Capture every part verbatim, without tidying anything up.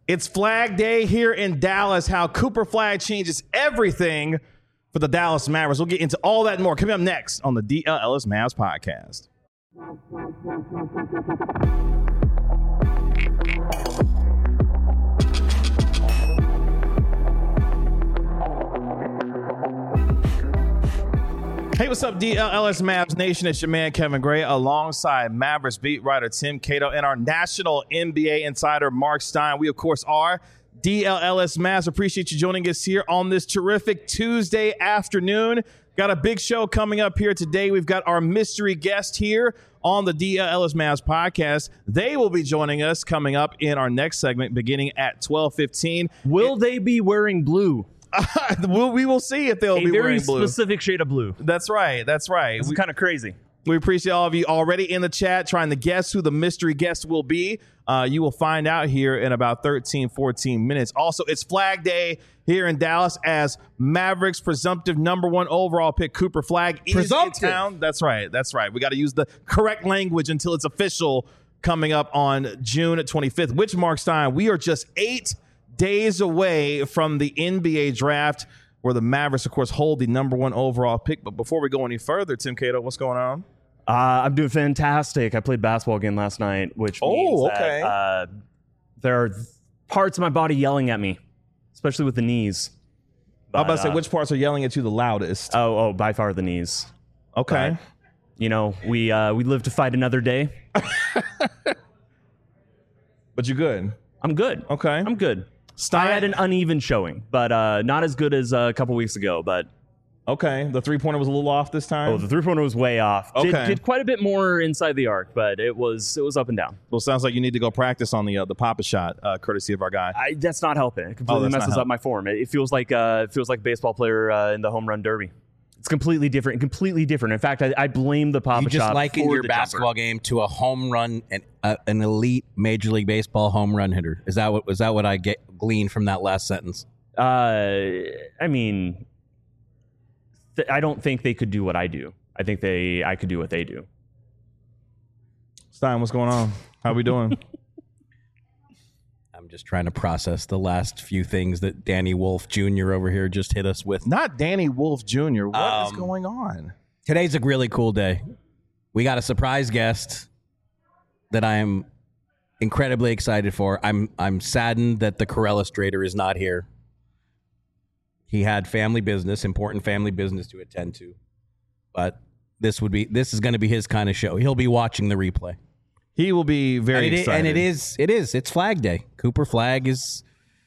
It's Flag Day here in Dallas, how Cooper Flagg changes everything for the Dallas Mavericks. We'll get into all that and more coming up next on the D L Ellis Mavs podcast. Hey, what's up, D L L S Mavs Nation? It's your man, Kevin Gray, alongside Mavericks beat writer Tim Cato and our national N B A insider, Mark Stein. We, of course, are D L L S Mavs. Appreciate you joining us here on this terrific Tuesday afternoon. Got a big show coming up here today. We've got our mystery guest here on the D L L S Mavs podcast. They will be joining us coming up in our next segment beginning at twelve fifteen. Will it- they be wearing blue? we'll, we will see if they'll a be very wearing blue. specific shade of blue. That's right. That's right. It's We- kind of crazy. We appreciate all of you already in the chat trying to guess who the mystery guest will be. Uh, you will find out here in about thirteen, fourteen minutes. Also, it's Flag Day here in Dallas as Mavericks presumptive number one overall pick Cooper Flagg is Presumptive. in town. That's right. That's right. We got to use the correct language until it's official coming up on June twenty-fifth, which, Mark Stein, we are just eight days away from the N B A draft, where the Mavericks, of course, hold the number one overall pick. But before we go any further, Tim Cato, what's going on? Uh, I'm doing fantastic. I played basketball again last night, which Oh, means okay. that uh, there are parts of my body yelling at me, especially with the knees. I was about to But, say, uh, which parts are yelling at you the loudest? Oh, oh, by far the knees. Okay. But, you know, we uh, we live to fight another day. But you're good. I'm good. Okay. I'm good. Stein- I had an uneven showing, but uh, not as good as uh, a couple weeks ago. But Okay. The three-pointer was a little off this time? oh, the three-pointer was way off. Did, Okay. did quite a bit more inside the arc, but it was it was up and down. Well, sounds like you need to go practice on the uh, the Papa shot, uh, courtesy of our guy. I, that's not helping. It completely Oh, that's not messes up helping. my form. It, it feels like uh, it feels like a baseball player uh, in the home run derby. It's completely different. Completely different. In fact, I, I blame the Papa You just shot likened for your the basketball jumper. game to a home run and uh, an elite Major League Baseball home run hitter. Is that what was that what I get gleaned from that last sentence? Uh, I mean, th- I don't think they could do what I do. I think they I could do what they do. Stein, what's going on? How we doing? I'm just trying to process the last few things that Danny Wolf Junior over here just hit us with. Not Danny Wolf Junior What is Um, going on? Today's a really cool day. We got a surprise guest that I am incredibly excited for. I'm I'm saddened that the Corellistrator is not here. He had family business, important family business to attend to. But this would be this is going to be his kind of show. He'll be watching the replay. He will be very and it, excited. and it is it is it's Flag Day. Cooper Flagg is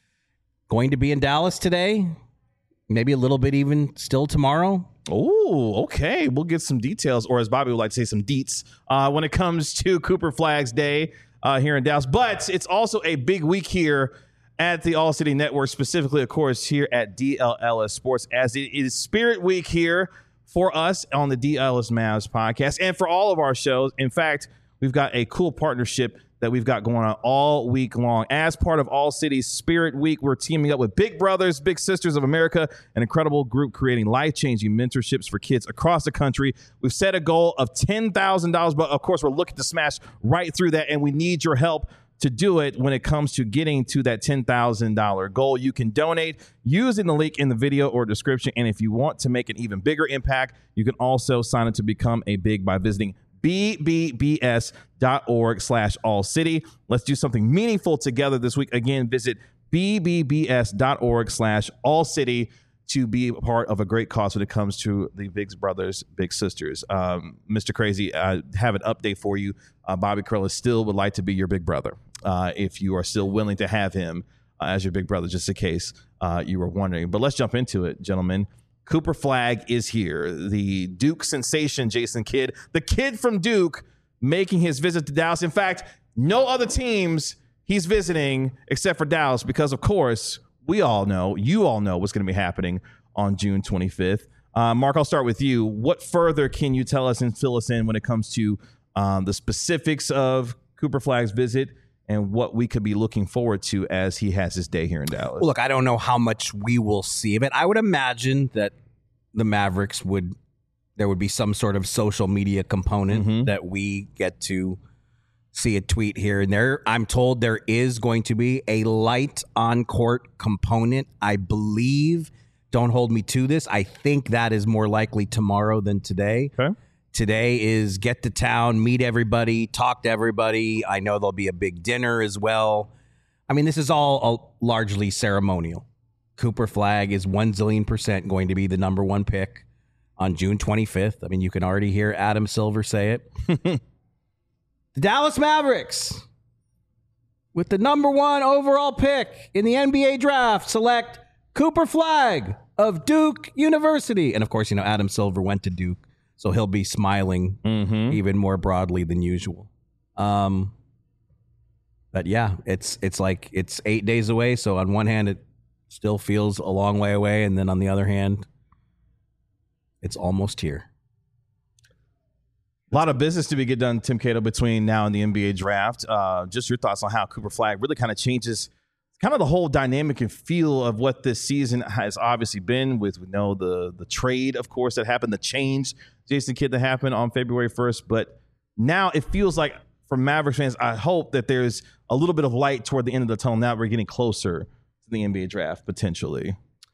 going to be in Dallas today. Maybe a little bit even still tomorrow. Oh, okay. We'll get some details, or as Bobby would like to say, some deets uh, when it comes to Cooper Flagg's day uh, here in Dallas. But it's also a big week here at the All City Network, specifically, of course, here at D L L S Sports, as it is Spirit Week here for us on the D L L S Mavs podcast and for all of our shows. In fact, we've got a cool partnership that we've got going on all week long. As part of All City's Spirit Week, we're teaming up with Big Brothers, Big Sisters of America, an incredible group creating life-changing mentorships for kids across the country. We've set a goal of ten thousand dollars, but of course, we're looking to smash right through that, and we need your help to do it when it comes to getting to that ten thousand dollars goal. You can donate using the link in the video or description, and if you want to make an even bigger impact, you can also sign up to become a Big by visiting B B B S dot org slash all city. Let's do something meaningful together this week. Again, visit B B B S dot org slash all city to be a part of a great cause when it comes to the Big Brothers, Big Sisters. Um, Mister Crazy, I have an update for you. Uh, Bobby Corelli still would like to be your big brother. Uh, if you are still willing to have him uh, as your big brother, just in case uh, you were wondering. But let's jump into it, gentlemen. Cooper Flagg is here. The Duke sensation, Jason Kidd, the kid from Duke, making his visit to Dallas. In fact, no other teams he's visiting except for Dallas because, of course, we all know, you all know what's going to be happening on June twenty-fifth. Uh, Mark, I'll start with you. What further can you tell us and fill us in when it comes to um, the specifics of Cooper Flagg's visit and what we could be looking forward to as he has his day here in Dallas? Well, look, I don't know how much we will see of it. I would imagine that the Mavericks would, there would be some sort of social media component Mhm. that we get to see a tweet here and there. I'm told there is going to be a light on-court component, I believe. Don't hold me to this. I think that is more likely tomorrow than today. Okay. Today is get to town, meet everybody, talk to everybody. I know there'll be a big dinner as well. I mean, this is all uh, largely ceremonial. Cooper Flagg is one zillion percent going to be the number one pick on June twenty-fifth. I mean, you can already hear Adam Silver say it. The Dallas Mavericks, with the number one overall pick in the N B A draft, select Cooper Flagg of Duke University. And of course, you know, Adam Silver went to Duke, so he'll be smiling mm-hmm. even more broadly than usual. Um, but yeah, it's it's like it's eight days away. So on one hand, it still feels a long way away. And then on the other hand, it's almost here. A lot of business to be get done, Tim Cato, between now and the N B A draft. Uh, just your thoughts on how Cooper Flagg really kind of changes kind of the whole dynamic and feel of what this season has obviously been with, we know, the the trade, of course, that happened, the change, Jason Kidd, that happened on February first. But now it feels like, for Mavericks fans, I hope that there's a little bit of light toward the end of the tunnel. Now we're getting closer to the N B A draft, potentially.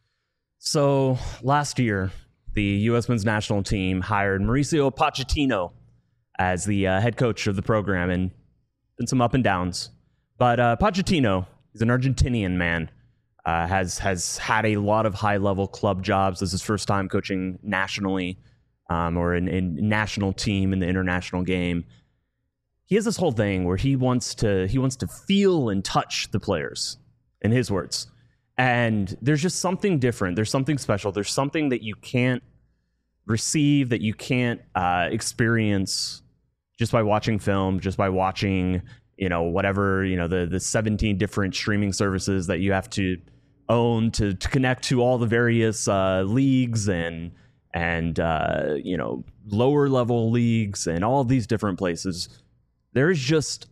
So last year, the U S men's national team hired Mauricio Pochettino as the uh, head coach of the program, and been some up and downs. But uh, Pochettino, he's an Argentinian man, uh, has has had a lot of high-level club jobs. This is his first time coaching nationally um, or in, in national team in the international game. He has this whole thing where he wants to he wants to feel and touch the players, in his words. And there's just something different. There's something special. There's something that you can't receive, that you can't uh, experience just by watching film, just by watching, you know, whatever, you know, the the seventeen different streaming services that you have to own to, to connect to all the various uh, leagues and and uh, you know, lower level leagues and all these different places. There is just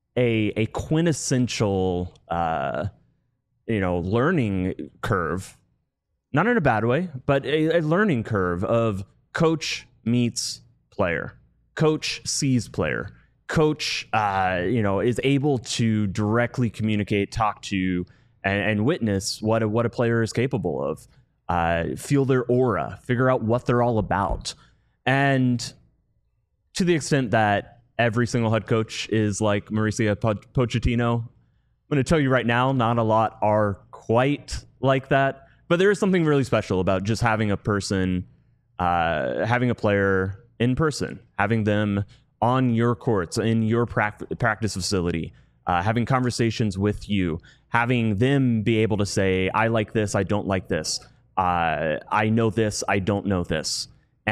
a a quintessential uh, you know, learning curve, not in a bad way, but a, a learning curve of coach meets player. Coach sees player. Coach, uh, you know, is able to directly communicate, talk to, and, and witness what a, what a player is capable of. Uh, feel their aura, figure out what they're all about. And to the extent that every single head coach is like Mauricio Pochettino, I'm going to tell you right now, not a lot are quite like that. But there is something really special about just having a person, uh, having a player in person, having them on your courts, in your pract- practice facility, uh, having conversations with you, having them be able to say, I like this, I don't like this. Uh, I know this, I don't know this.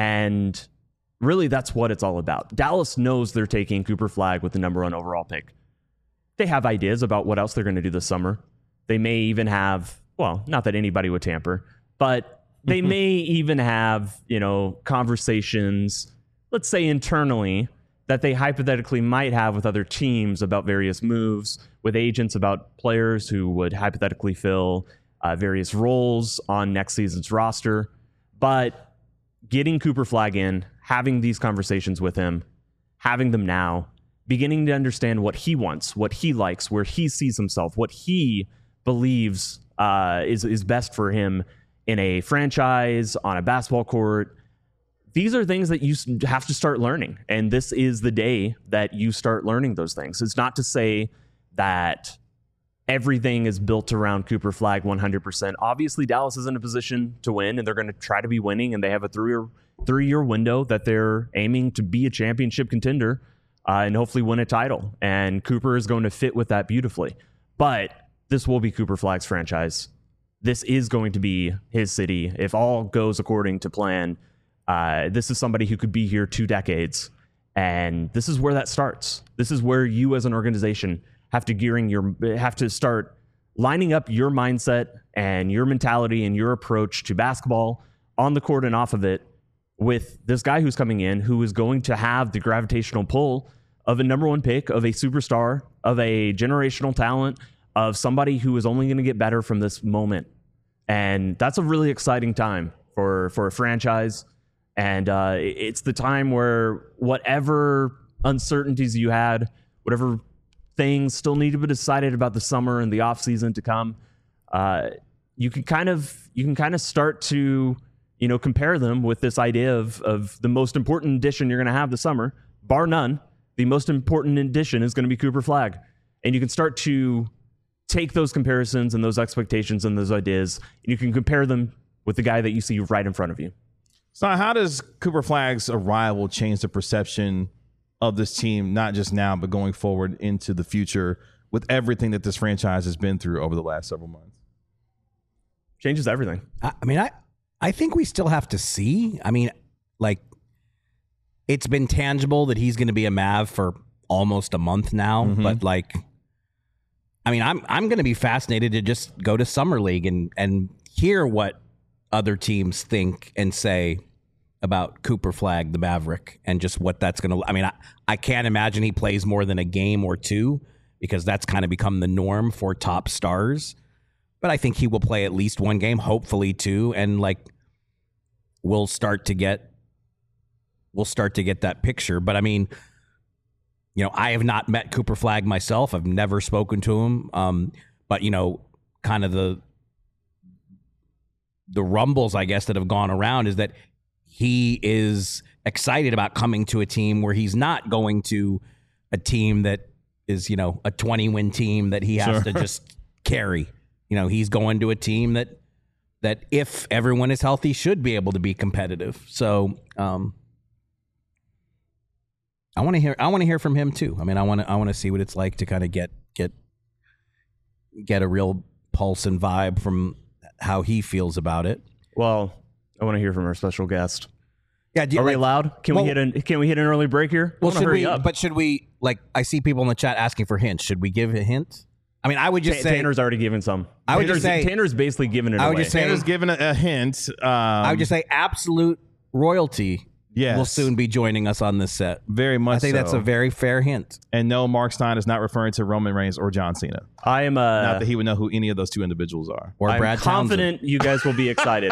And really, that's what it's all about. Dallas knows they're taking Cooper Flagg with the number one overall pick. They have ideas about what else they're going to do this summer. They may even have, well, not that anybody would tamper, but they may even have, you know, conversations, let's say internally, that they hypothetically might have with other teams about various moves, with agents about players who would hypothetically fill uh, various roles on next season's roster. But getting Cooper Flagg in, having these conversations with him, having them now, beginning to understand what he wants, what he likes, where he sees himself, what he believes uh, is, is best for him in a franchise, on a basketball court. These are things that you have to start learning. And this is the day that you start learning those things. It's not to say that everything is built around Cooper Flagg one hundred percent. Obviously, Dallas is in a position to win, and they're going to try to be winning, and they have a three-year three-year window that they're aiming to be a championship contender uh, and hopefully win a title. And Cooper is going to fit with that beautifully. But this will be Cooper Flagg's franchise. This is going to be his city. If all goes according to plan, uh, this is somebody who could be here two decades. And this is where that starts. This is where you as an organization have to gearing your have to start lining up your mindset and your mentality and your approach to basketball on the court and off of it with this guy who's coming in, who is going to have the gravitational pull of a number one pick, of a superstar, of a generational talent, of somebody who is only going to get better from this moment. And that's a really exciting time for, for a franchise. And uh, it's the time where whatever uncertainties you had whatever things still need to be decided about the summer and the off season to come, uh, you can kind of you can kind of start to you know compare them with this idea of of the most important addition you're going to have this summer, bar none. The most important addition is going to be Cooper Flagg, and you can start to take those comparisons and those expectations and those ideas, and you can compare them with the guy that you see right in front of you. So how does Cooper Flagg's arrival change the perception of this team, not just now, but going forward into the future with everything that this franchise has been through over the last several months? Changes everything. I, I mean, I, I think we still have to see. I mean, like, it's been tangible that he's going to be a Mav for almost a month now, mm-hmm. but like, I mean, I'm I'm going to be fascinated to just go to Summer League and and hear what other teams think and say about Cooper Flagg, the Maverick, and just what that's going to. I mean, I, I can't imagine he plays more than a game or two because that's kind of become the norm for top stars. But I think he will play at least one game, hopefully two, and like we'll start to get we'll start to get that picture. But I mean, you know, I have not met Cooper Flagg myself. I've never spoken to him. Um, but you know, kind of the the rumbles, I guess, that have gone around is that he is excited about coming to a team where he's not going to a team that is, you know, a twenty-win team that he has Sure. to just carry. You know, he's going to a team that that if everyone is healthy should be able to be competitive. So um, I want to hear. I want to hear from him too. I mean, I want to. I want to see what it's like to kind of get get get a real pulse and vibe from how he feels about it. Well, I want to hear from our special guest. Yeah, do you, Are we like, allowed? Can well- we hit an Can we hit an early break here? I Well, wanna should hurry we? up. But should we? Like, I see people in the chat asking for hints. Should we give a hint? I mean, I would just Ta- say. Tanner's already given some. I would Tanner's, just say- Tanner's basically given it I would away. just say- Tanner's given a, a hint. Um, I would just say absolute royalty yes, will soon be joining us on this set. very much. I think that's so. a very fair hint. And no, Mark Stein is not referring to Roman Reigns or John Cena. I am uh, Not that he would know who any of those two individuals are. Or I'm Brad confident you guys will be excited.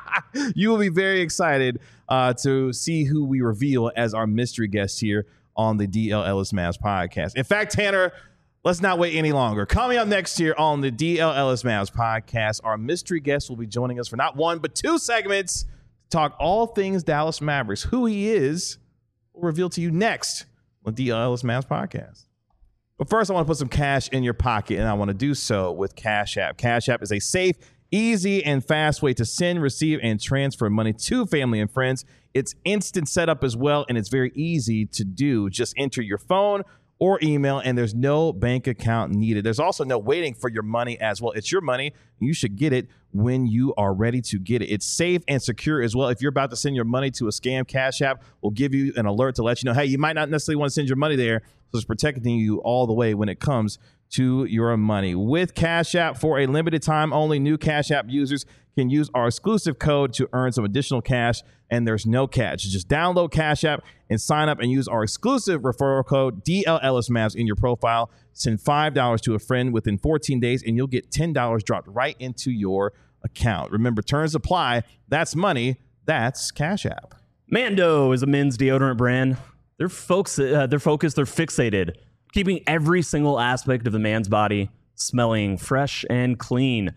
You will be very excited uh, to see who we reveal as our mystery guest here on the D L Ellis Mavs podcast. In fact, Tanner, let's not wait any longer. Coming up next year on the D L Ellis Mavs podcast, our mystery guest will be joining us for not one, but two segments to talk all things Dallas Mavericks. Who he is will reveal to you next on the D L Ellis Mavs podcast. But first, I want to put some cash in your pocket, and I want to do so with Cash App. Cash App is a safe, easy, and fast way to send, receive, and transfer money to family and friends. It's instant setup as well, and it's very easy to do. Just enter your phone or email, and there's no bank account needed. There's also no waiting for your money as well. It's your money. You should get it when you are ready to get it. It's safe and secure as well. If you're about to send your money to a scam, Cash App will give you an alert to let you know, hey, you might not necessarily want to send your money there, so it's protecting you all the way when it comes to your money. With Cash App, for a limited time only, new Cash App users can use our exclusive code to earn some additional cash, and there's no catch. Just download Cash App and sign up and use our exclusive referral code D L Ellis Mavs in your profile. Send five dollars to a friend within fourteen days, and you'll get ten dollars dropped right into your account. Remember, terms apply. That's money. That's Cash App. Mando is a men's deodorant brand. They're folks. Uh, they're focused. They're fixated, keeping every single aspect of the man's body smelling fresh and clean.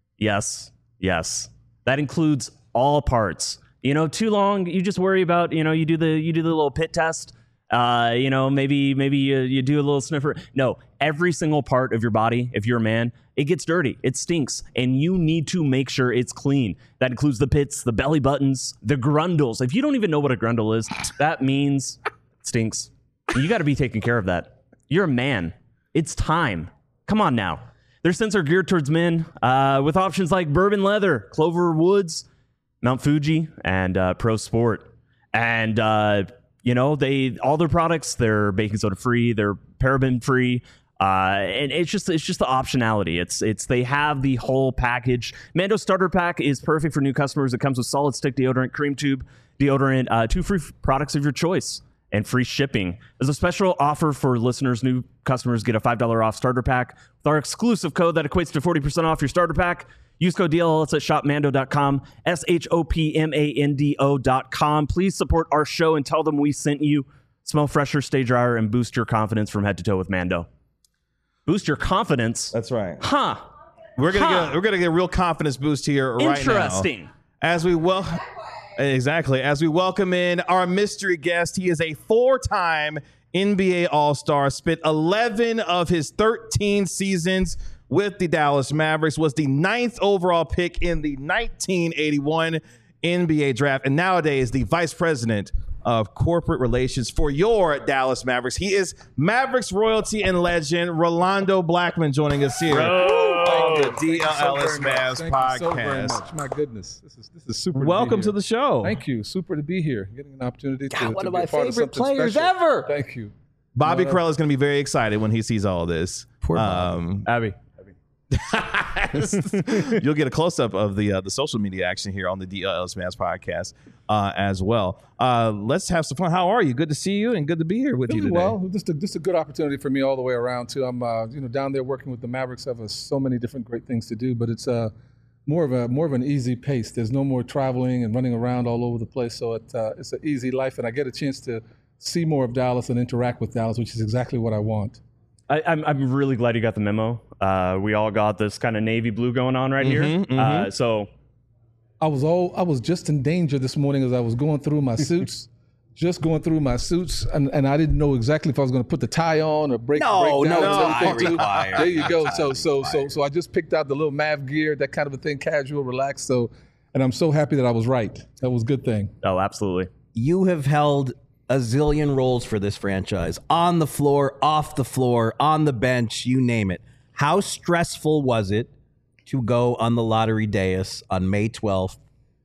Yes, yes, that includes all parts. You know, too long, you just worry about. You know, you do the you do the little pit test. Uh, you know, maybe maybe you, you do a little sniffer. No, every single part of your body, if you're a man, it gets dirty, it stinks, and you need to make sure it's clean. That includes the pits, the belly buttons, the grundles. If you don't even know what a grundle is, that means it stinks. You got to be taking care of that. You're a man. It's time. Come on now. Their scents are geared towards men uh, with options like bourbon leather, Clover Woods, Mount Fuji, and uh, Pro Sport. And uh, you know, they all their products, they're baking soda free, they're paraben free, uh, and it's just it's just the optionality. It's it's they have the whole package. Mando Starter Pack is perfect for new customers. It comes with solid stick deodorant, cream tube deodorant, uh, two free f- products of your choice, and free shipping. There's a special offer for listeners. New customers get a five dollars off starter pack with our exclusive code that equates to forty percent off your starter pack. Use code D L L S at shop mando dot com, S H O P M A N D O dot com. Please support our show and tell them we sent you. Smell fresher, stay drier, and boost your confidence from head to toe with Mando. Boost your confidence? That's right. Huh. We're gonna Huh. get we're gonna get a real confidence boost here right now. Interesting. As we well exactly as we welcome in our mystery guest. He is a four-time N B A All-Star, spent eleven of his thirteen seasons with the Dallas Mavericks, was the ninth overall pick in the nineteen eighty-one N B A draft, and nowadays the vice president of corporate relations for your Dallas Mavericks. He is Mavericks royalty and legend Rolando Blackman joining us here on the D L L S Mavs Thank you so very podcast. much. My goodness, this is this is super. Welcome to, to be the here. show. Thank you. Super to be here, getting an opportunity to, God, one to of be my a part of favorite something players special. ever. Thank you. Bobby No, Karell is going to be very excited when he sees all this. Poor Bob. Um, Abby. You'll get a close up of the uh, the social media action here on the D L L S Mavs podcast uh, as well. Uh, let's have some fun. How are you? Good to see you and good to be here with you Really today. well. Just a, just a good opportunity for me all the way around too. I'm uh, you know down there working with the Mavericks. I have uh, so many different great things to do, but it's uh, more of a more of an easy pace. There's no more traveling and running around all over the place, so it, uh, it's an easy life, and I get a chance to see more of Dallas and interact with Dallas, which is exactly what I want. I, I'm I'm really glad you got the memo. Uh, we all got this kind of navy blue going on right here. Mhm, mhm. Uh, so I was all I was just in danger this morning as I was going through my suits, just going through my suits, and, and I didn't know exactly if I was going to put the tie on or break. No, break down no and tie everything, too. required. There you go. So so so so I just picked out the little Mav gear, that kind of a thing, casual, relaxed. So, and I'm so happy that I was right. That was a good thing. oh, absolutely. You have held a zillion roles for this franchise, on the floor, off the floor, on the bench, you name it. How stressful was it to go on the lottery dais on May twelfth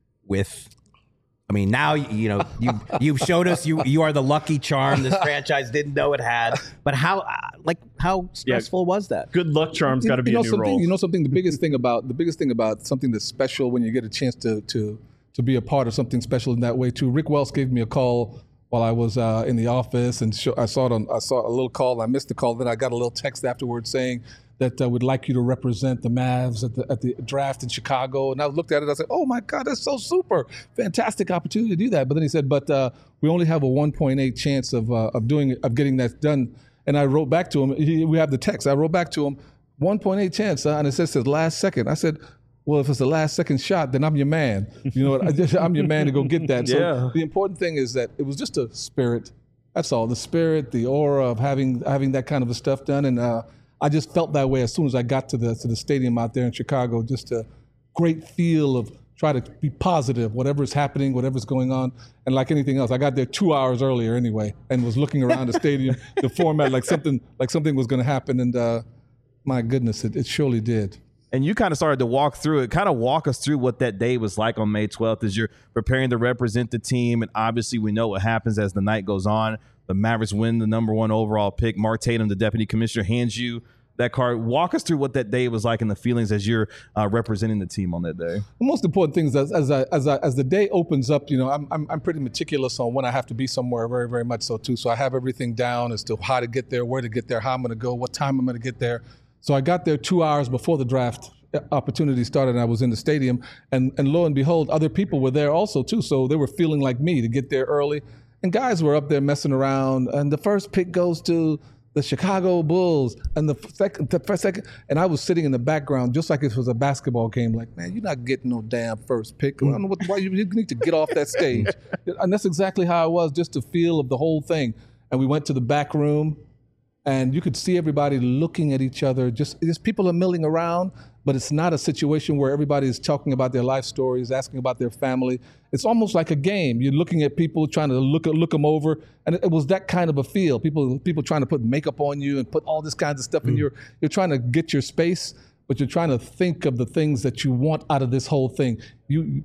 with, I mean, now, you know, you, you've showed us you, you are the lucky charm this franchise didn't know it had, but how, uh, like, how stressful was that? Good luck charms got to be you know a new something. role. You know something. The biggest thing about the biggest thing about something that's special when you get a chance to to to be a part of something special in that way too. Rick Wells gave me a call while I was uh, in the office, and show, I saw it on. I saw a little call. And I missed the call. Then I got a little text afterwards saying that uh, we'd like you to represent the Mavs at the at the draft in Chicago. And I looked at it. I said, "Oh my God, that's so super! Fantastic opportunity to do that." But then he said, "But uh, we only have a one point eight chance of uh, of doing it, of getting that done." And I wrote back to him. He, we have the text. I wrote back to him, one point eight chance, uh, and it says the last second. I said, well, if it's the last second shot, then I'm your man. You know what? I just, I'm your man to go get that. So Yeah. the important thing is that it was just a spirit. That's all. The spirit, the aura of having having that kind of a stuff done. And uh, I just felt that way as soon as I got to the to the stadium out there in Chicago. Just a great feel of try to be positive, whatever's happening, whatever's going on. And like anything else, I got there two hours earlier anyway, and was looking around the stadium, the format, like something like something was going to happen. And uh, my goodness, it, it surely did. And you kind of started to walk through it, kind of walk us through what that day was like on May twelfth as you're preparing to represent the team. And obviously we know what happens as the night goes on. The Mavericks win the number one overall pick. Mark Tatum, the deputy commissioner, hands you that card. Walk us through what that day was like and the feelings as you're uh, representing the team on that day. The most important thing is as as I, as, I, as the day opens up, you know, I'm, I'm I'm pretty meticulous on when I have to be somewhere, very very much so too. So I have everything down as to how to get there, where to get there, how I'm going to go, what time I'm going to get there. So I got there two hours before the draft opportunity started, and I was in the stadium, and and lo and behold, other people were there also too. So they were feeling like me to get there early, and guys were up there messing around. And the first pick goes to the Chicago Bulls, and the second, the first second, and I was sitting in the background just like it was a basketball game. Like, man, you're not getting no damn first pick. I don't know what, why you, you need to get off that stage. And that's exactly how I was, just the feel of the whole thing. And we went to the back room, and you could see everybody looking at each other. Just, just people are milling around, but it's not a situation where everybody is talking about their life stories, asking about their family. It's almost like a game. You're looking at people, trying to look look them over, and it, it was that kind of a feel. People people trying to put makeup on you and put all this kinds of stuff in your. You're trying to get your space, but you're trying to think of the things that you want out of this whole thing. You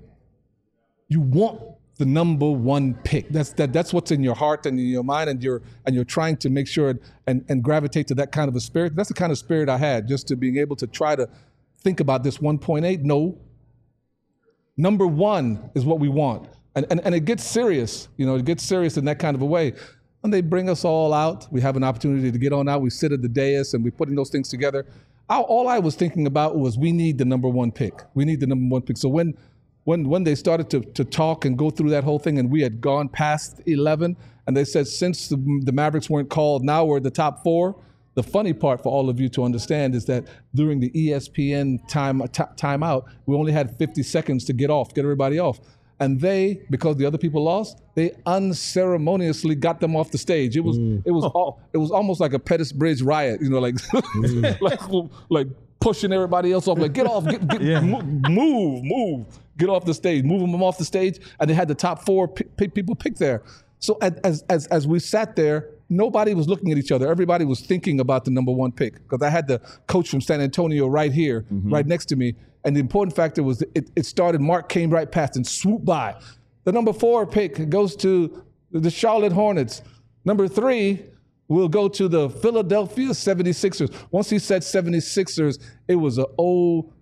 you want the number one pick. That's that. That's what's in your heart and in your mind, and you're and you're trying to make sure and and gravitate to that kind of a spirit. That's the kind of spirit I had, just to being able to try to think about this one point eight. No, number one is what we want, and and and it gets serious. You know, it gets serious in that kind of a way. And they bring us all out. We have an opportunity to get on out. We sit at the dais and we're putting those things together. All, all I was thinking about was we need the number one pick. We need the number one pick. So when When when they started to to talk and go through that whole thing, and we had gone past eleven, And they said since the, the Mavericks weren't called, now we're the top four. The funny part for all of you to understand is that during the E S P N time t- timeout, we only had fifty seconds to get off, get everybody off. And they, because the other people lost, they unceremoniously got them off the stage. It was mm. it was all, it was almost like a Pettus Bridge riot, you know, like mm. like, like pushing everybody else off, like get off, get, get, yeah. move, move, move, get off the stage, moving them off the stage, and they had the top four p- p- people picked there. So as as as we sat there, nobody was looking at each other. Everybody was thinking about the number one pick because I had the coach from San Antonio right here, mm-hmm. right next to me. And the important factor was it, it started, Mark came right past and swooped by. The number four pick goes to the Charlotte Hornets. Number three will go to the Philadelphia seventy-sixers. Once he said seventy-sixers, it was an old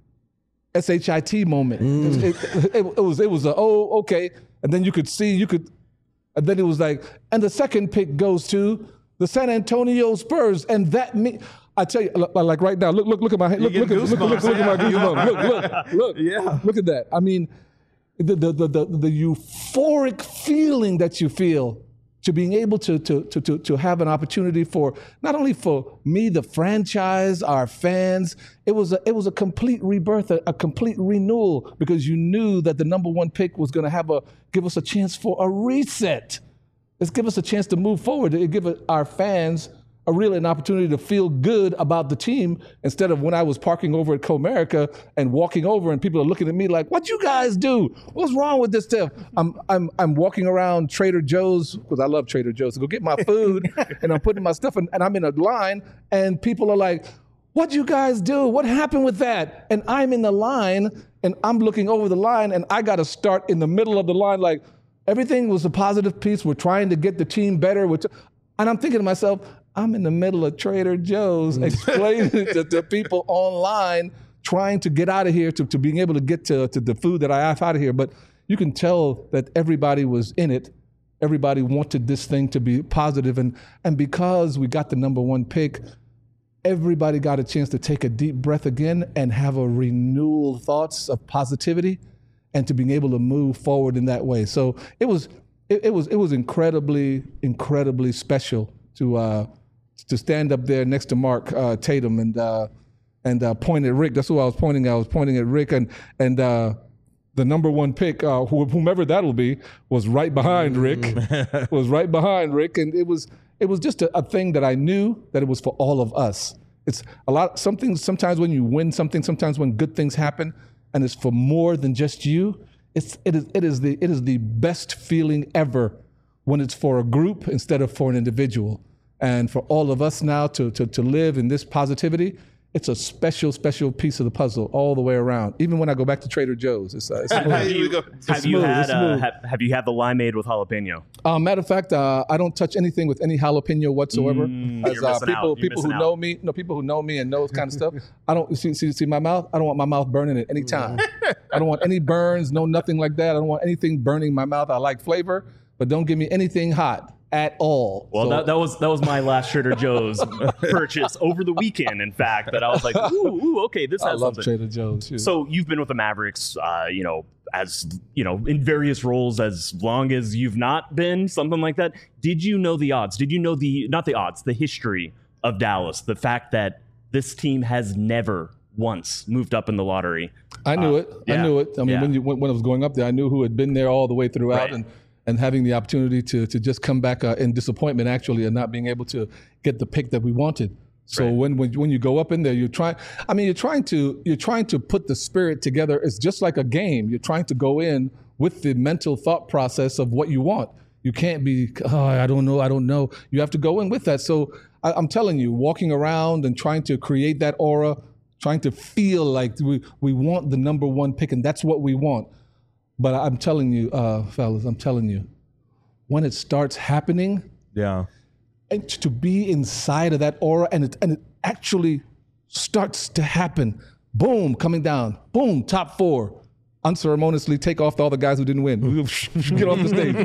S H I T moment. Mm. It, it, it, it was, it was a, oh, okay. And then you could see, you could, and then it was like, and the second pick goes to the San Antonio Spurs. And that me, I tell you, like right now, look, look, look at my hand. Look, look, look, look, look, look at my goosebumps. Look, look, look. Yeah. Look at that. I mean, the the the the, the euphoric feeling that you feel to being able to, to to to to have an opportunity for not only for me, the franchise, our fans. It was a it was a complete rebirth, a, a complete renewal, because you knew that the number one pick was going to have a give us a chance for a reset. Let's give us a chance to move forward. It give our fans a really an opportunity to feel good about the team, instead of when I was parking over at Comerica and walking over and people are looking at me like, what you guys do? What's wrong with this stuff? I'm I'm I'm walking around Trader Joe's, because I love Trader Joe's, to go get my food and I'm putting my stuff in, and I'm in a line and people are like, what you guys do? What happened with that? And I'm in the line and I'm looking over the line and I got to start in the middle of the line like, everything was a positive piece. We're trying to get the team better. Which, and I'm thinking to myself, I'm in the middle of Trader Joe's explaining to, to people online, trying to get out of here, to, to being able to get to, to the food that I have out of here. But you can tell that everybody was in it. Everybody wanted this thing to be positive. And, and because we got the number one pick, everybody got a chance to take a deep breath again and have a renewal thoughts of positivity and to being able to move forward in that way. So it was it, it was it was incredibly, incredibly special to uh, to stand up there next to Mark uh, Tatum and uh, and uh, point at Rick. That's who I was pointing at. I was pointing at Rick, and and uh, the number one pick, uh, whomever that'll be, was right behind Rick. was right behind Rick, and it was it was just a, a thing that I knew that it was for all of us. It's a lot. Something sometimes when you win something, sometimes when good things happen, and it's for more than just you. It's it is it is the it is the best feeling ever when it's for a group instead of for an individual. And for all of us now to to to live in this positivity, it's a special, special piece of the puzzle all the way around. Even when I go back to Trader Joe's, it's, uh, it's smooth. have you, it's have smooth. you had It's uh, smooth. have, have you had the limeade with jalapeno? Uh, matter of fact, uh, I don't touch anything with any jalapeno whatsoever. Mm, As you're uh, missing people, out. You're people who missing know out. me, no people who know me and knows kind of stuff. I don't see, see see my mouth. I don't want my mouth burning at any time. I don't want any burns, no nothing like that. I don't want anything burning my mouth. I like flavor, but don't give me anything hot at all. Well, So- that, that was that was my last Trader Joe's purchase over the weekend. In fact, that I was like, ooh, ooh okay, this I has love something. Trader Joe's. too. So you've been with the Mavericks, uh, you know, as you know, in various roles as long as you've not been, something like that. Did you know the odds? Did you know the not the odds, the history of Dallas? The fact that this team has never once moved up in the lottery. I knew Uh, it. yeah. I knew it. I mean, Yeah. when you when, when I was going up there, I knew who had been there all the way throughout, Right. and and having the opportunity to to just come back uh, in disappointment, actually, and not being able to get the pick that we wanted. So Right. when, when when you go up in there, you're trying. I mean, you're trying to you're trying to put the spirit together. It's just like a game. You're trying to go in with the mental thought process of what you want. You can't be, oh, I don't know, I don't know. You have to go in with that. So I, I'm telling you, walking around and trying to create that aura, trying to feel like we, we want the number one pick, and that's what we want. But I'm telling you, uh, fellas, I'm telling you, when it starts happening, Yeah. and to be inside of that aura, and it, and it actually starts to happen, boom, coming down, boom, top four, unceremoniously take off all the guys who didn't win. Get off the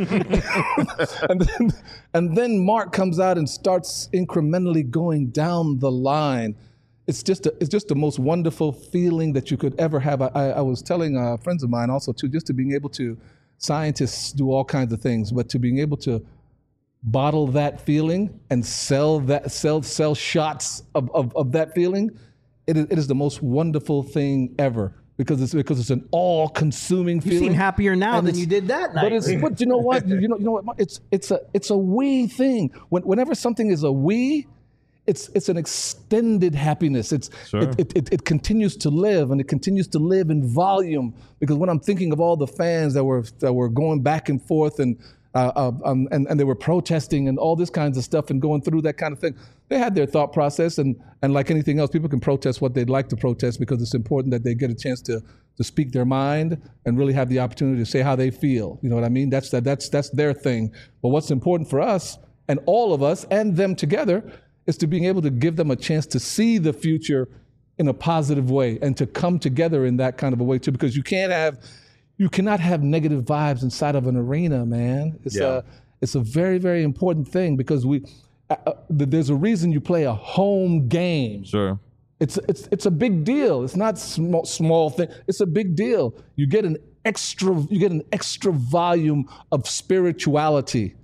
stage. and, then, and then Mark comes out and starts incrementally going down the line. It's just a, it's just the most wonderful feeling that you could ever have. I, I, I was telling uh, friends of mine also too, just to being able to, scientists do all kinds of things, but to being able to bottle that feeling and sell that sell sell shots of, of, of that feeling, it is, it is the most wonderful thing ever because it's because it's an all-consuming feeling. You seem happier now And than it's- you did that night. But it's but you know what you know you know what it's it's a it's a we thing. When, whenever something is a we, it's it's an extended happiness. It's Sure. it, it, it it continues to live and it continues to live in volume. Because when I'm thinking of all the fans that were that were going back and forth and uh, uh, um, and and they were protesting and all this kinds of stuff and going through that kind of thing, they had their thought process and and like anything else, people can protest what they'd like to protest because it's important that they get a chance to to speak their mind and really have the opportunity to say how they feel. You know what I mean? That's that that's that's their thing. But what's important for us and all of us and them together is to being able to give them a chance to see the future in a positive way and to come together in that kind of a way too, because you can't have, you cannot have negative vibes inside of an arena, man. It's Yeah. a, it's a very, very important thing because we, uh, uh, there's a reason you play a home game. Sure. It's, it's, it's a big deal. It's not small, small thing. It's a big deal. You get an extra, you get an extra volume of spirituality.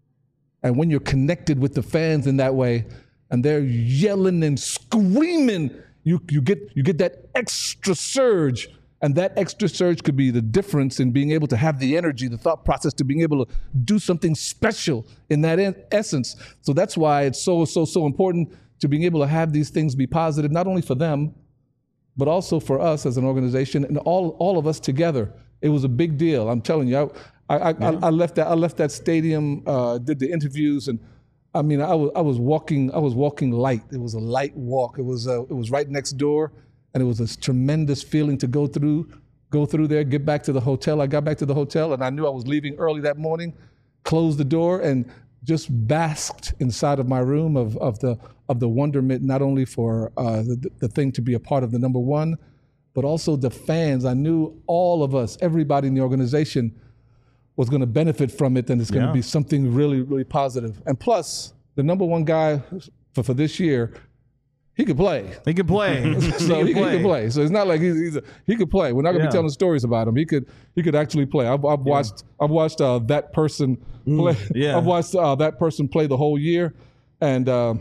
And when you're connected with the fans in that way, and they're yelling and screaming, you you get you get that extra surge, and that extra surge could be the difference in being able to have the energy, the thought process to being able to do something special in that in essence. So that's why it's so so so important to being able to have these things be positive, not only for them, but also for us as an organization and all all of us together. It was a big deal. I'm telling you, I I, I, I left that I left that stadium, uh, did the interviews, and I mean, I was I was walking I was walking light. It was a light walk. It was uh, it was right next door, and it was a tremendous feeling to go through go through there, get back to the hotel. I got back to the hotel, and I knew I was leaving early that morning. Closed the door and just basked inside of my room of of the of the wonderment, not only for uh, the the thing to be a part of the number one, but also the fans. I knew all of us, everybody in the organization, was going to benefit from it, and it's going to Yeah. be something really, really positive. And plus, the number one guy for, for this year, he could play. He can play. So he, he could play. So it's not like he's, he's a, he could play. We're not going to Yeah. be telling stories about him. He could he could actually play. I've, I've watched I've watched uh, that person play. yeah. I've watched uh, that person play the whole year, and uh,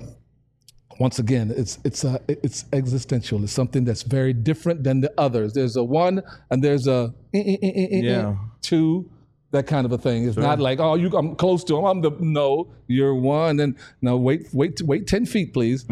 once again, it's it's uh, it's existential. It's something that's very different than the others. There's a one, and there's a eh, eh, eh, eh, eh, Yeah. two. That kind of a thing. It's not like, oh, you, I'm close to him. I'm the no. You're one, and no, wait, wait, wait, ten feet, please,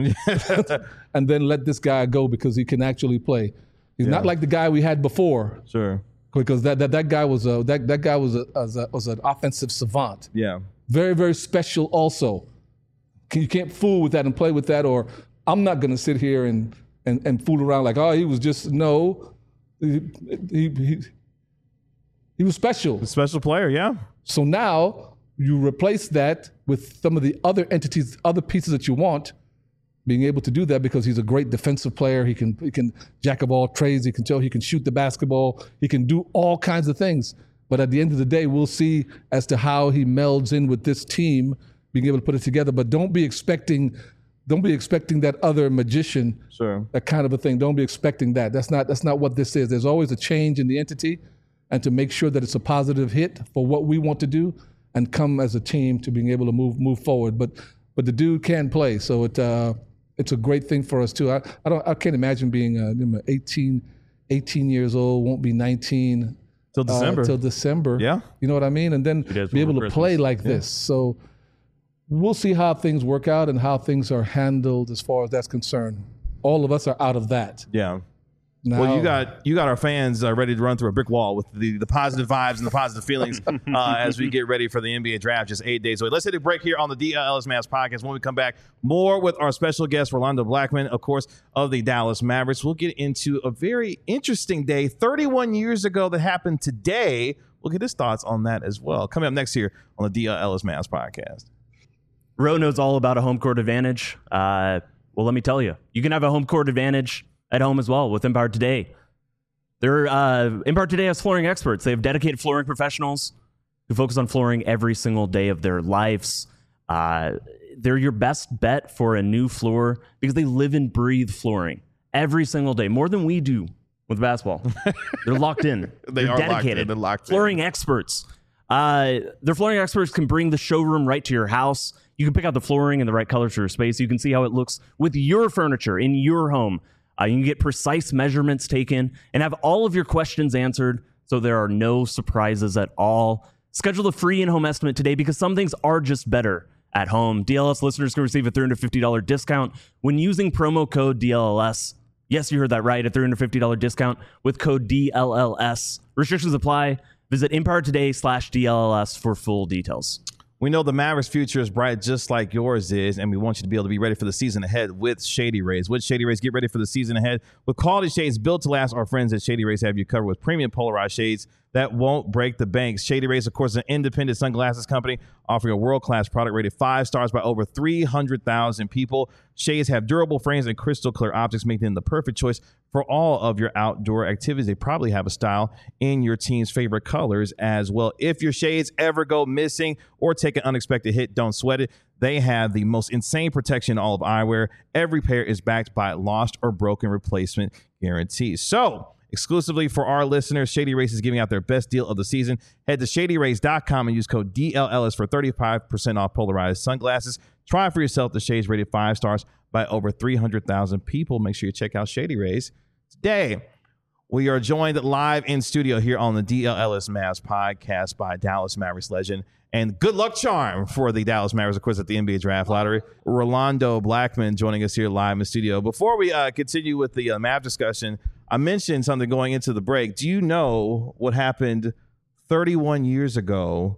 and then let this guy go because he can actually play. He's not like the guy we had before, Sure. because that that, that guy was a that, that guy was a, was a was an offensive savant. Yeah. Very very special. Also, you can't fool with that and play with that. Or I'm not going to sit here and, and and fool around like, oh, he was just no. He, he, he, he was special. A special player. Yeah. So now you replace that with some of the other entities, other pieces that you want, being able to do that because he's a great defensive player. He can he can jack of all trades. He can tell he can shoot the basketball. He can do all kinds of things. But at the end of the day, we'll see as to how he melds in with this team, being able to put it together. But don't be expecting, don't be expecting that other magician, Sure. that kind of a thing. Don't be expecting that. That's not that's not what this is. There's always a change in the entity, and to make sure that it's a positive hit for what we want to do, and come as a team to being able to move move forward. But but the dude can play, so it uh, it's a great thing for us too. I, I don't I can't imagine being uh, eighteen, eighteen years old, won't be nineteen Till December. uh, till December. Yeah. You know what I mean? And then days be able to before play Christmas. like this. So we'll see how things work out and how things are handled as far as that's concerned. All of us are out of that. Yeah. Now, Well, you got you got our fans uh, ready to run through a brick wall with the, the positive vibes and the positive feelings uh, as we get ready for the N B A draft just eight days away. Let's take a break here on the D L Ellis Mavs podcast. When we come back, more with our special guest, Rolando Blackman, of course, of the Dallas Mavericks. We'll get into a very interesting day, thirty-one years ago, that happened today. We'll get his thoughts on that as well. Coming up next here on the D L Ellis Mavs podcast. Ro knows all about a home court advantage. Uh, well, let me tell you, you can have a home court advantage at home as well with Empire Today. They're uh, Empire Today has flooring experts. They have dedicated flooring professionals who focus on flooring every single day of their lives. Uh, they're your best bet for a new floor because they live and breathe flooring every single day, more than we do with basketball. They're locked in. They They're are locked in. dedicated. They're locked in. flooring experts. Uh, their flooring experts can bring the showroom right to your house. You can pick out the flooring and the right colors for your space. You can see how it looks with your furniture in your home. Uh, you can get precise measurements taken and have all of your questions answered, so there are no surprises at all. Schedule the free in-home estimate today because some things are just better at home. D L S listeners can receive a three hundred fifty dollars discount when using promo code D L L S. Yes, you heard that right, a three hundred fifty dollars discount with code D L L S. Restrictions apply. Visit Empire Today slash D L L S for full details. We know the Mavericks' future is bright just like yours is, and we want you to be able to be ready for the season ahead with Shady Rays. With Shady Rays, get ready for the season ahead with quality shades built to last. Our friends at Shady Rays have you covered with premium polarized shades that won't break the bank. Shady Rays, of course, is an independent sunglasses company offering a world-class product rated five stars by over three hundred thousand people. Shades have durable frames and crystal clear optics, making them the perfect choice for all of your outdoor activities. They probably have a style in your team's favorite colors as well. If your shades ever go missing or take an unexpected hit, don't sweat it. They have the most insane protection in all of eyewear. Every pair is backed by lost or broken replacement guarantees. So, exclusively for our listeners, Shady Rays is giving out their best deal of the season. Head to shady rays dot com and use code D L L S for thirty-five percent off polarized sunglasses. Try for yourself the shades rated five stars by over three hundred thousand people. Make sure you check out Shady Rays today. We are joined live in studio here on the D L L S Mavs podcast by Dallas Mavericks legend and good luck charm for the Dallas Mavericks, of course, at the N B A Draft Lottery, Rolando Blackman, joining us here live in the studio. Before we uh, continue with the uh, Mav discussion, I mentioned something going into the break. Do you know what happened thirty-one years ago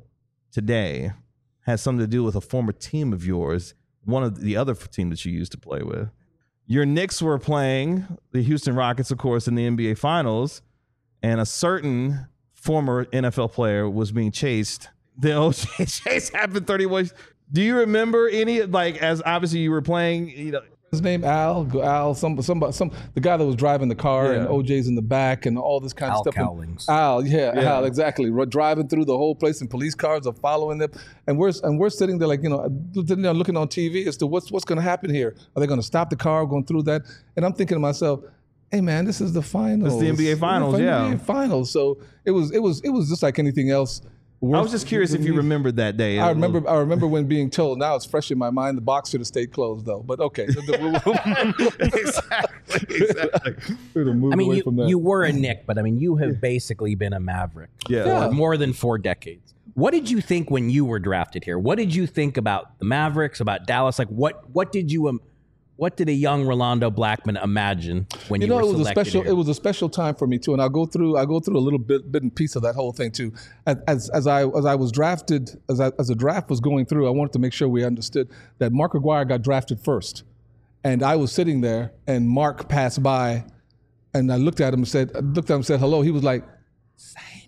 today has something to do with a former team of yours, one of the other team that you used to play with? Your Knicks were playing the Houston Rockets, of course, in the N B A Finals, and a certain former N F L player was being chased. The O J chase happened thirty-one. Do you remember any, like, as obviously you were playing, you know, His name Al, Al, some, some, some, the guy that was driving the car, Yeah. and O J's in the back, and all this kind Al of stuff. And Cowlings. Al, yeah, Yeah. Al, exactly. We're driving through the whole place, and police cars are following them, and we're and we're sitting there like, you know, sitting there looking on T V as to what's what's going to happen here. Are they going to stop the car going through that? And I'm thinking to myself, hey man, this is the finals. It's the N B A Finals, yeah. N B A Finals. So it was it was it was just like anything else. I was just curious if you remembered that day. I remember. I remember when being told. Now it's fresh in my mind. The box should have stayed closed, though. But okay, exactly. exactly. We'll move I mean, away you, from that. you were a Knick, but I mean, you have basically been a Maverick Yeah. for Yeah. more than four decades. What did you think when you were drafted here? What did you think about the Mavericks, about Dallas? Like, what what did you um, what did a young Rolando Blackman imagine when you, you know, were it was a selected special. here? It was a special time for me too, and I'll go through. I go through a little bit, bit and piece of that whole thing too. As as, as I as I was drafted, as I, as the draft was going through, I wanted to make sure we understood that Mark Aguirre got drafted first, and I was sitting there, and Mark passed by, and I looked at him and said, I looked at him and said hello. He was like, same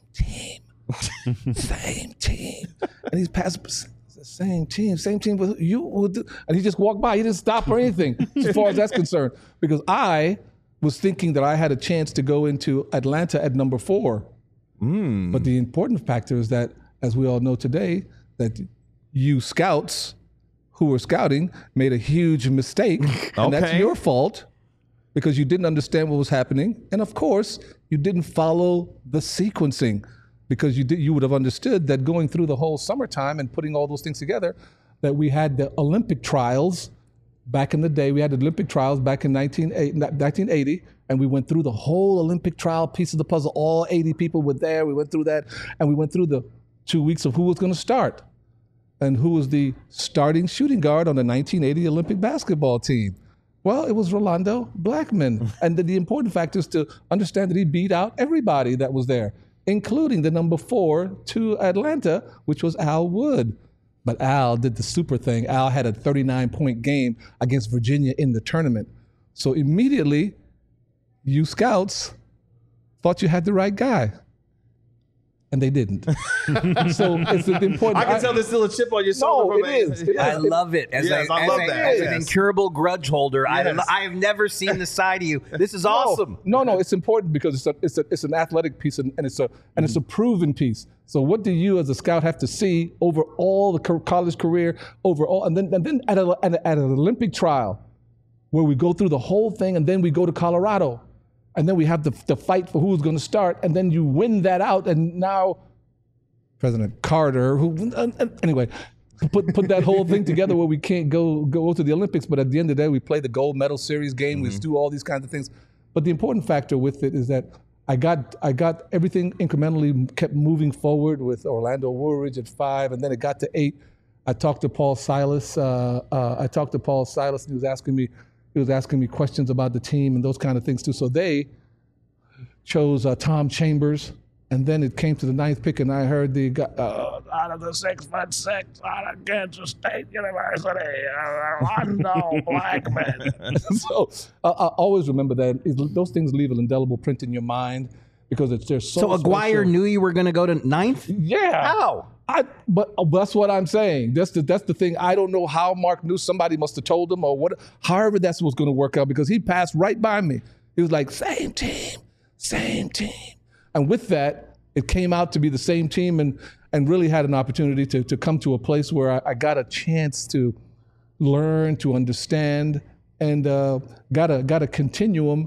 team, same team, and he's passed. Same team, same team with you. Would do. And he just walked by. He didn't stop or anything as far as that's concerned. Because I was thinking that I had a chance to go into Atlanta at number four. Mm. But the important factor is that, as we all know today, that you scouts who were scouting made a huge mistake. And that's Okay. your fault because you didn't understand what was happening. And of course, you didn't follow the sequencing. Because you did, you would have understood that going through the whole summertime and putting all those things together, that we had the Olympic trials back in the day. We had the Olympic trials back in nineteen eighty, and we went through the whole Olympic trial piece of the puzzle. All eighty people were there. We went through that, and we went through the two weeks of who was going to start and who was the starting shooting guard on the nineteen eighty Olympic basketball team. Well, it was Rolando Blackman. And the, the important factor is to understand that he beat out everybody that was there, including the number four to Atlanta, which was Al Wood. But Al did the super thing. Al had a thirty-nine point game against Virginia in the tournament. So immediately, you scouts thought you had the right guy. And they didn't. So it's important. I can tell there's still a chip on your shoulder. No, from it is. It I is. love it. As, Yes, a, I as, love a- that. as an Yes. incurable grudge holder, I, Yes. I have never seen the side of you. This is No, awesome. No, no, it's important because it's a, it's a, it's an athletic piece and, and it's a and it's a proven piece. So what do you as a scout have to see over all the co- college career, over all, and then and then at, a, at, a, at an Olympic trial, where we go through the whole thing, and then we go to Colorado, and then we have the the fight for who's going to start, and then you win that out, and now President Carter, who uh, uh, anyway, put put that whole thing together where we can't go go to the Olympics, but at the end of the day, we play the gold medal series game. Mm-hmm. We do all these kinds of things. But the important factor with it is that I got I got everything incrementally kept moving forward with Orlando Woolridge at five, and then it got to eight. I talked to Paul Silas. Uh, uh, I talked to Paul Silas, and he was asking me he was asking me questions about the team and those kind of things too. So they chose uh, Tom Chambers. And then it came to the ninth pick, and I heard the guy, uh, out of the six foot six out of Kansas State University, uh, Rondo Blackman. So uh, I always remember that. It, those things leave an indelible print in your mind because it's they're so. So Aguirre special. knew you were going to go to ninth? Yeah. How? I, but uh, that's what I'm saying. That's the that's the thing. I don't know how Mark knew. Somebody must have told him, or what. However, that's what's going to work out because he passed right by me. He was like, "Same team, same team." And with that, it came out to be the same team and and really had an opportunity to, to come to a place where I, I got a chance to learn, to understand, and uh, got, a, got a continuum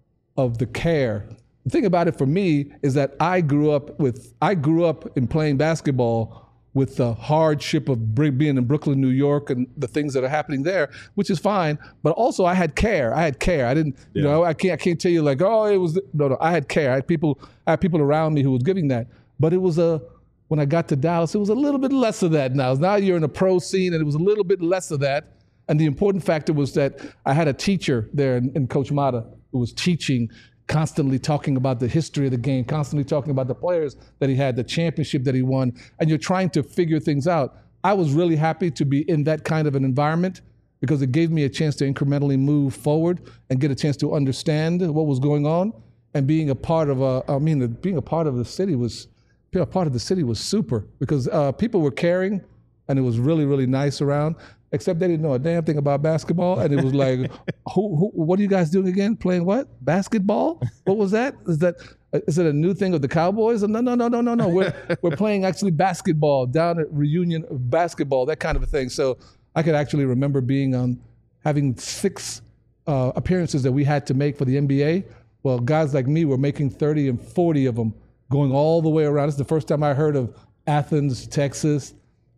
of the care. The thing about it for me is that I grew up with, I grew up in playing basketball with the hardship of being in Brooklyn, New York, and the things that are happening there, which is fine. But also, I had care. I had care. I didn't, yeah. you know, I can't, I can't tell you like, oh, it was no, no. I had care. I had people, I had people around me who was giving that. But it was a, when I got to Dallas, it was a little bit less of that. Now, now you're in a pro scene, and it was a little bit less of that. And the important factor was that I had a teacher there in, in Coach Mata who was teaching. Constantly talking about the history of the game, constantly talking about the players that he had, the championship that he won, and you're trying to figure things out. I was really happy to be in that kind of an environment because it gave me a chance to incrementally move forward and get a chance to understand what was going on. And being a part of a, I mean, being a part of the city was, being a part of the city was super because uh, people were caring, and it was really, really nice around. Except they didn't know a damn thing about basketball, and it was like, who, who, what are you guys doing again? Playing what? Basketball? What was that? Is that is it a new thing of the Cowboys? No, no, no, no, no, no. We're we're playing actually basketball down at Reunion basketball, that kind of a thing. So I could actually remember being on having six uh, appearances that we had to make for the N B A. Well, guys like me were making thirty and forty of them, going all the way around. It's the first time I heard of Athens, Texas,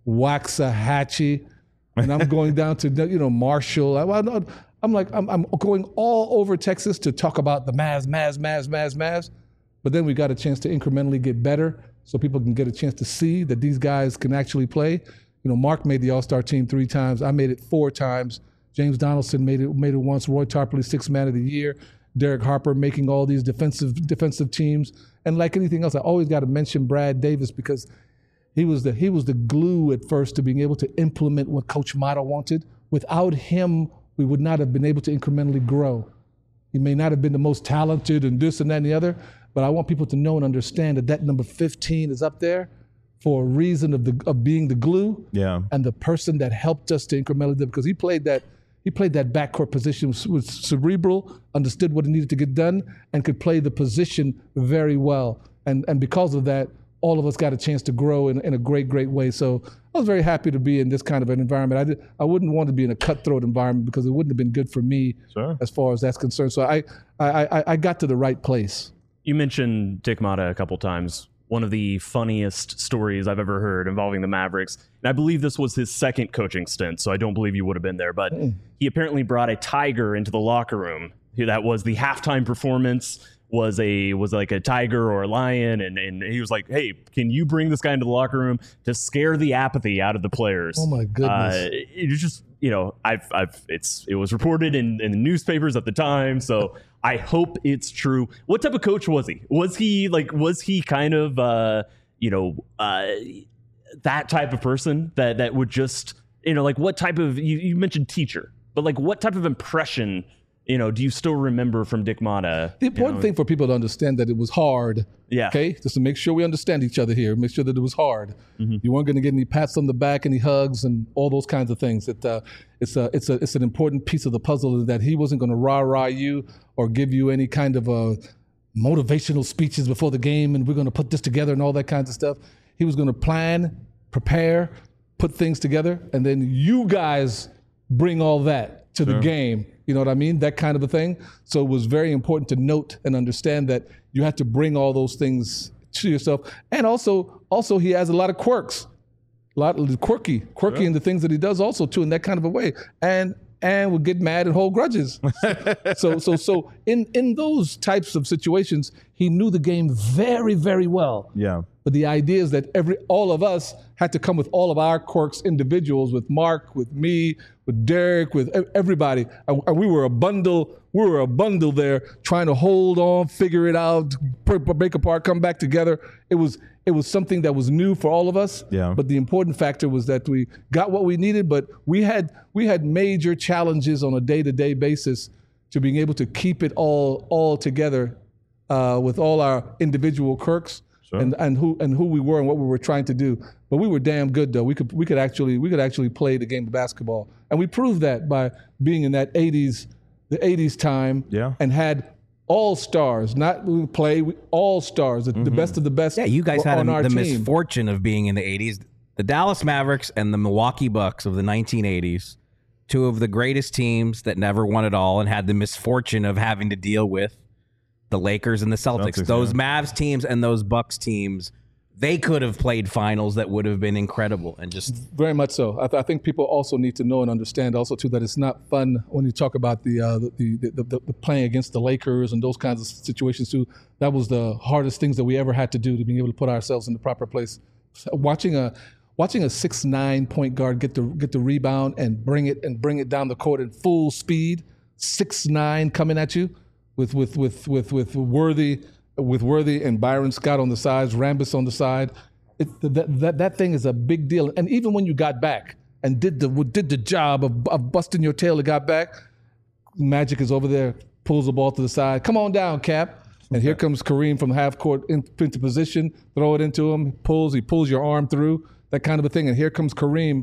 Waxahachie. And I'm going down to, you know, Marshall. I, I'm like, I'm, I'm going all over Texas to talk about the Mavs, Mavs, Mavs, Mavs, Mavs. But then we got a chance to incrementally get better so people can get a chance to see that these guys can actually play. You know, Mark made the All-Star team three times. I made it four times. James Donaldson made it made it once. Roy Tarpley, sixth man of the year. Derek Harper making all these defensive defensive teams. And like anything else, I always got to mention Brad Davis because He was the he was the glue at first to being able to implement what Coach Mata wanted. Without him, we would not have been able to incrementally grow. He may not have been the most talented and this and that and the other, but I want people to know and understand that that number fifteen is up there for a reason of the of being the glue yeah. and the person that helped us to incrementally because he played that he played that backcourt position was cerebral, understood what he needed to get done, and could play the position very well. And and because of that, all of us got a chance to grow in, in a great, great way. So I was very happy to be in this kind of an environment. I did, I wouldn't want to be in a cutthroat environment because it wouldn't have been good for me sure. as far as that's concerned. So I, I, I, I got to the right place. You mentioned Dick Mata a couple times. One of the funniest stories I've ever heard involving the Mavericks. And I believe this was his second coaching stint, so I don't believe you would have been there. But mm. he apparently brought a tiger into the locker room. That was the halftime performance. was a was like a tiger or a lion, and, and he was like, hey, can you bring this guy into the locker room to scare the apathy out of the players? Oh my goodness. Uh, it was just, you know, I've I've it's it was reported in, in the newspapers at the time, so I hope it's true. What type of coach was he? Was he like was he kind of uh, you know, uh, that type of person that that would just, you know, like what type of you, you mentioned teacher, but like what type of impression, you know, do you still remember from Dick Mata? The important you know? thing for people to understand that it was hard. Yeah. Okay. Just to make sure we understand each other here. Make sure that it was hard. Mm-hmm. You weren't going to get any pats on the back, any hugs, and all those kinds of things. It, uh, it's a, it's a, it's an important piece of the puzzle that he wasn't going to rah rah you or give you any kind of uh, motivational speeches before the game, and we're going to put this together and all that kinds of stuff. He was going to plan, prepare, put things together, and then you guys bring all that to sure. the game. You know what I mean? That kind of a thing. So it was very important to note and understand that you had to bring all those things to yourself. And also, also he has a lot of quirks, a lot of quirky, quirky in the things that he does also too, in that kind of a way. And and would get mad and hold grudges. so so so in in those types of situations, he knew the game very, very well. Yeah. But the idea is that every all of us had to come with all of our quirks, individuals, with Mark, with me, with Derek, with everybody. And we were a bundle. We were a bundle there, trying to hold on, figure it out, break apart, come back together. It was it was something that was new for all of us. Yeah. But the important factor was that we got what we needed, but we had we had major challenges on a day-to-day basis to being able to keep it all all together uh, with all our individual quirks. Sure. And and who and who we were and what we were trying to do, but we were damn good though. We could we could actually we could actually play the game of basketball, and we proved that by being in that eighties, the eighties time, yeah. and had all stars, not play all stars, the, mm-hmm. the best of the best. Yeah, you guys had on a, our the team. misfortune of being in the eighties. The Dallas Mavericks and the Milwaukee Bucks of the nineteen eighties, two of the greatest teams that never won it all, and had the misfortune of having to deal with the Lakers and the Celtics. Celtics those yeah. Mavs teams and those Bucks teams, they could have played finals that would have been incredible. And just very much so. I, th- I think people also need to know and understand also too that it's not fun when you talk about the, uh, the, the, the, the the playing against the Lakers and those kinds of situations too. That was the hardest things that we ever had to do to be able to put ourselves in the proper place. So watching a watching a six nine point guard get the get the rebound and bring it and bring it down the court at full speed, six nine coming at you. With with with with with Worthy, with Worthy and Byron Scott on the sides, Rambis on the side, it, that that that thing is a big deal. And even when you got back and did the did the job of, of busting your tail and got back, Magic is over there, pulls the ball to the side. Come on down, Cap. And here comes Kareem from half court in, into position, throw it into him, pulls, he pulls your arm through, that kind of a thing. And here comes Kareem,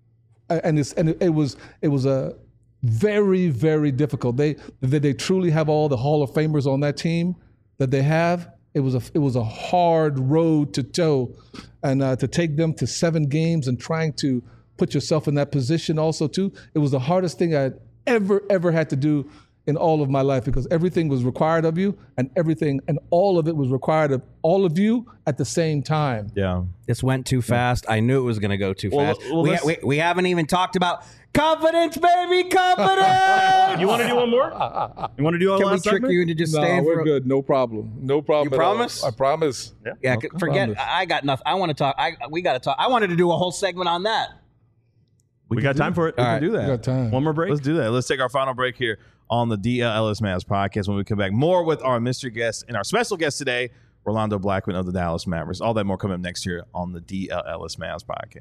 and it's and it, it was it was a. Very, very difficult. They, they they truly have all the Hall of Famers on that team that they have. It was a it was a hard road to toe, and uh, to take them to seven games and trying to put yourself in that position also too. It was the hardest thing I'd ever ever had to do in all of my life, because everything was required of you, and everything and all of it was required of all of you at the same time. Yeah, this went too fast. I knew it was going to go too well, fast. Well, we, we we haven't even talked about. Confidence, baby, confidence. You want to do one more? You want to do one Can last we trick segment? you into just No, staying? we're for good. No problem. No problem. You at all. promise? I promise. Yeah. Yeah, No, c- I forget. promise. I got nothing. I want to talk. I we got to talk. I wanted to do a whole segment on that. We, we got time for it. We All can right. do that. We got time. One more break. Let's do that. Let's take our final break here on the D L Ellis Mavs podcast. When we come back, more with our mystery guest and our special guest today, Rolando Blackman of the Dallas Mavericks. All that more coming up next year on the D L Ellis Mavs podcast.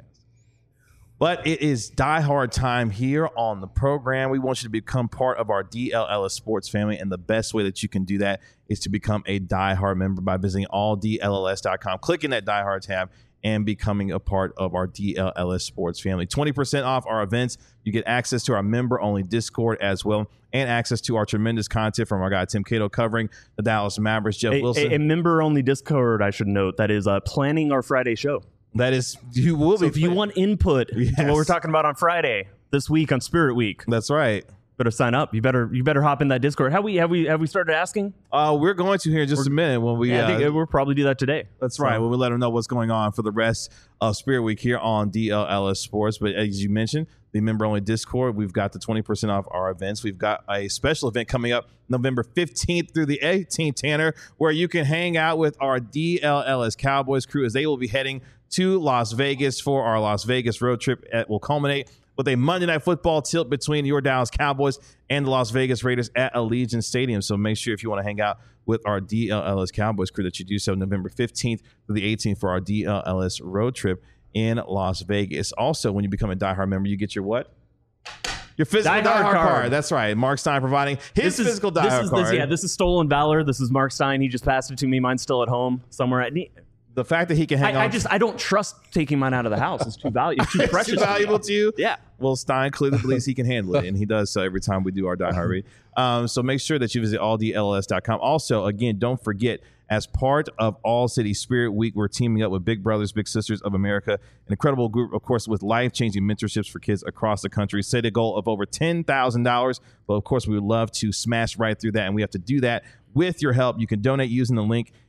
But it is diehard time here on the program. We want you to become part of our D L Ellis sports family, and the best way that you can do that is to become a diehard member by visiting all D L L S dot com, clicking that diehard tab, and becoming a part of our D L L S sports family. twenty percent off our events. You get access to our member-only Discord as well, and access to our tremendous content from our guy Tim Cato covering the Dallas Mavericks. Jeff A, Wilson. a, a member-only Discord, I should note, that is uh, planning our Friday show. That is, you will So be. if you want input Yes. to what we're talking about on Friday this week on Spirit Week, That's right. better sign up. You better you better hop in that Discord. Have we have we have we started asking? Uh, we're going to here in just a minute when we. Yeah, I uh, think we'll probably do that today. That's right. When we let them know what's going on for the rest of Spirit Week here on D L L S Sports. But as you mentioned, the member-only Discord, we've got the twenty percent off our events. We've got a special event coming up November fifteenth through the eighteenth, Tanner, where you can hang out with our D L L S Cowboys crew as they will be heading to Las Vegas for our Las Vegas road trip. It will culminate with a Monday Night Football tilt between your Dallas Cowboys and the Las Vegas Raiders at Allegiant Stadium. So make sure if you want to hang out with our D L L S Cowboys crew that you do so November fifteenth through the eighteenth for our D L L S road trip in Las Vegas. Also, when you become a diehard member, you get your what? Your physical Diehard diehard, card. card. That's right. Mark Stein providing his This is physical this diehard is, card. This, yeah, this is stolen valor. This is Mark Stein. He just passed it to me. Mine's still at home somewhere. At, the fact that he can hang on. I, I just I don't trust taking mine out of the house. It's too valuable. It's too It's precious. too valuable to you. Yeah. Well, Stein clearly believes he can handle it, and he does so every time we do our Die Hard read. Um, so make sure that you visit all D L L S dot com. Also, again, don't forget, as part of All City Spirit Week, we're teaming up with Big Brothers Big Sisters of America, an incredible group, of course, with life-changing mentorships for kids across the country. Set a goal of over ten thousand dollars, but of course, we would love to smash right through that, and we have to do that with your help. You can donate using the link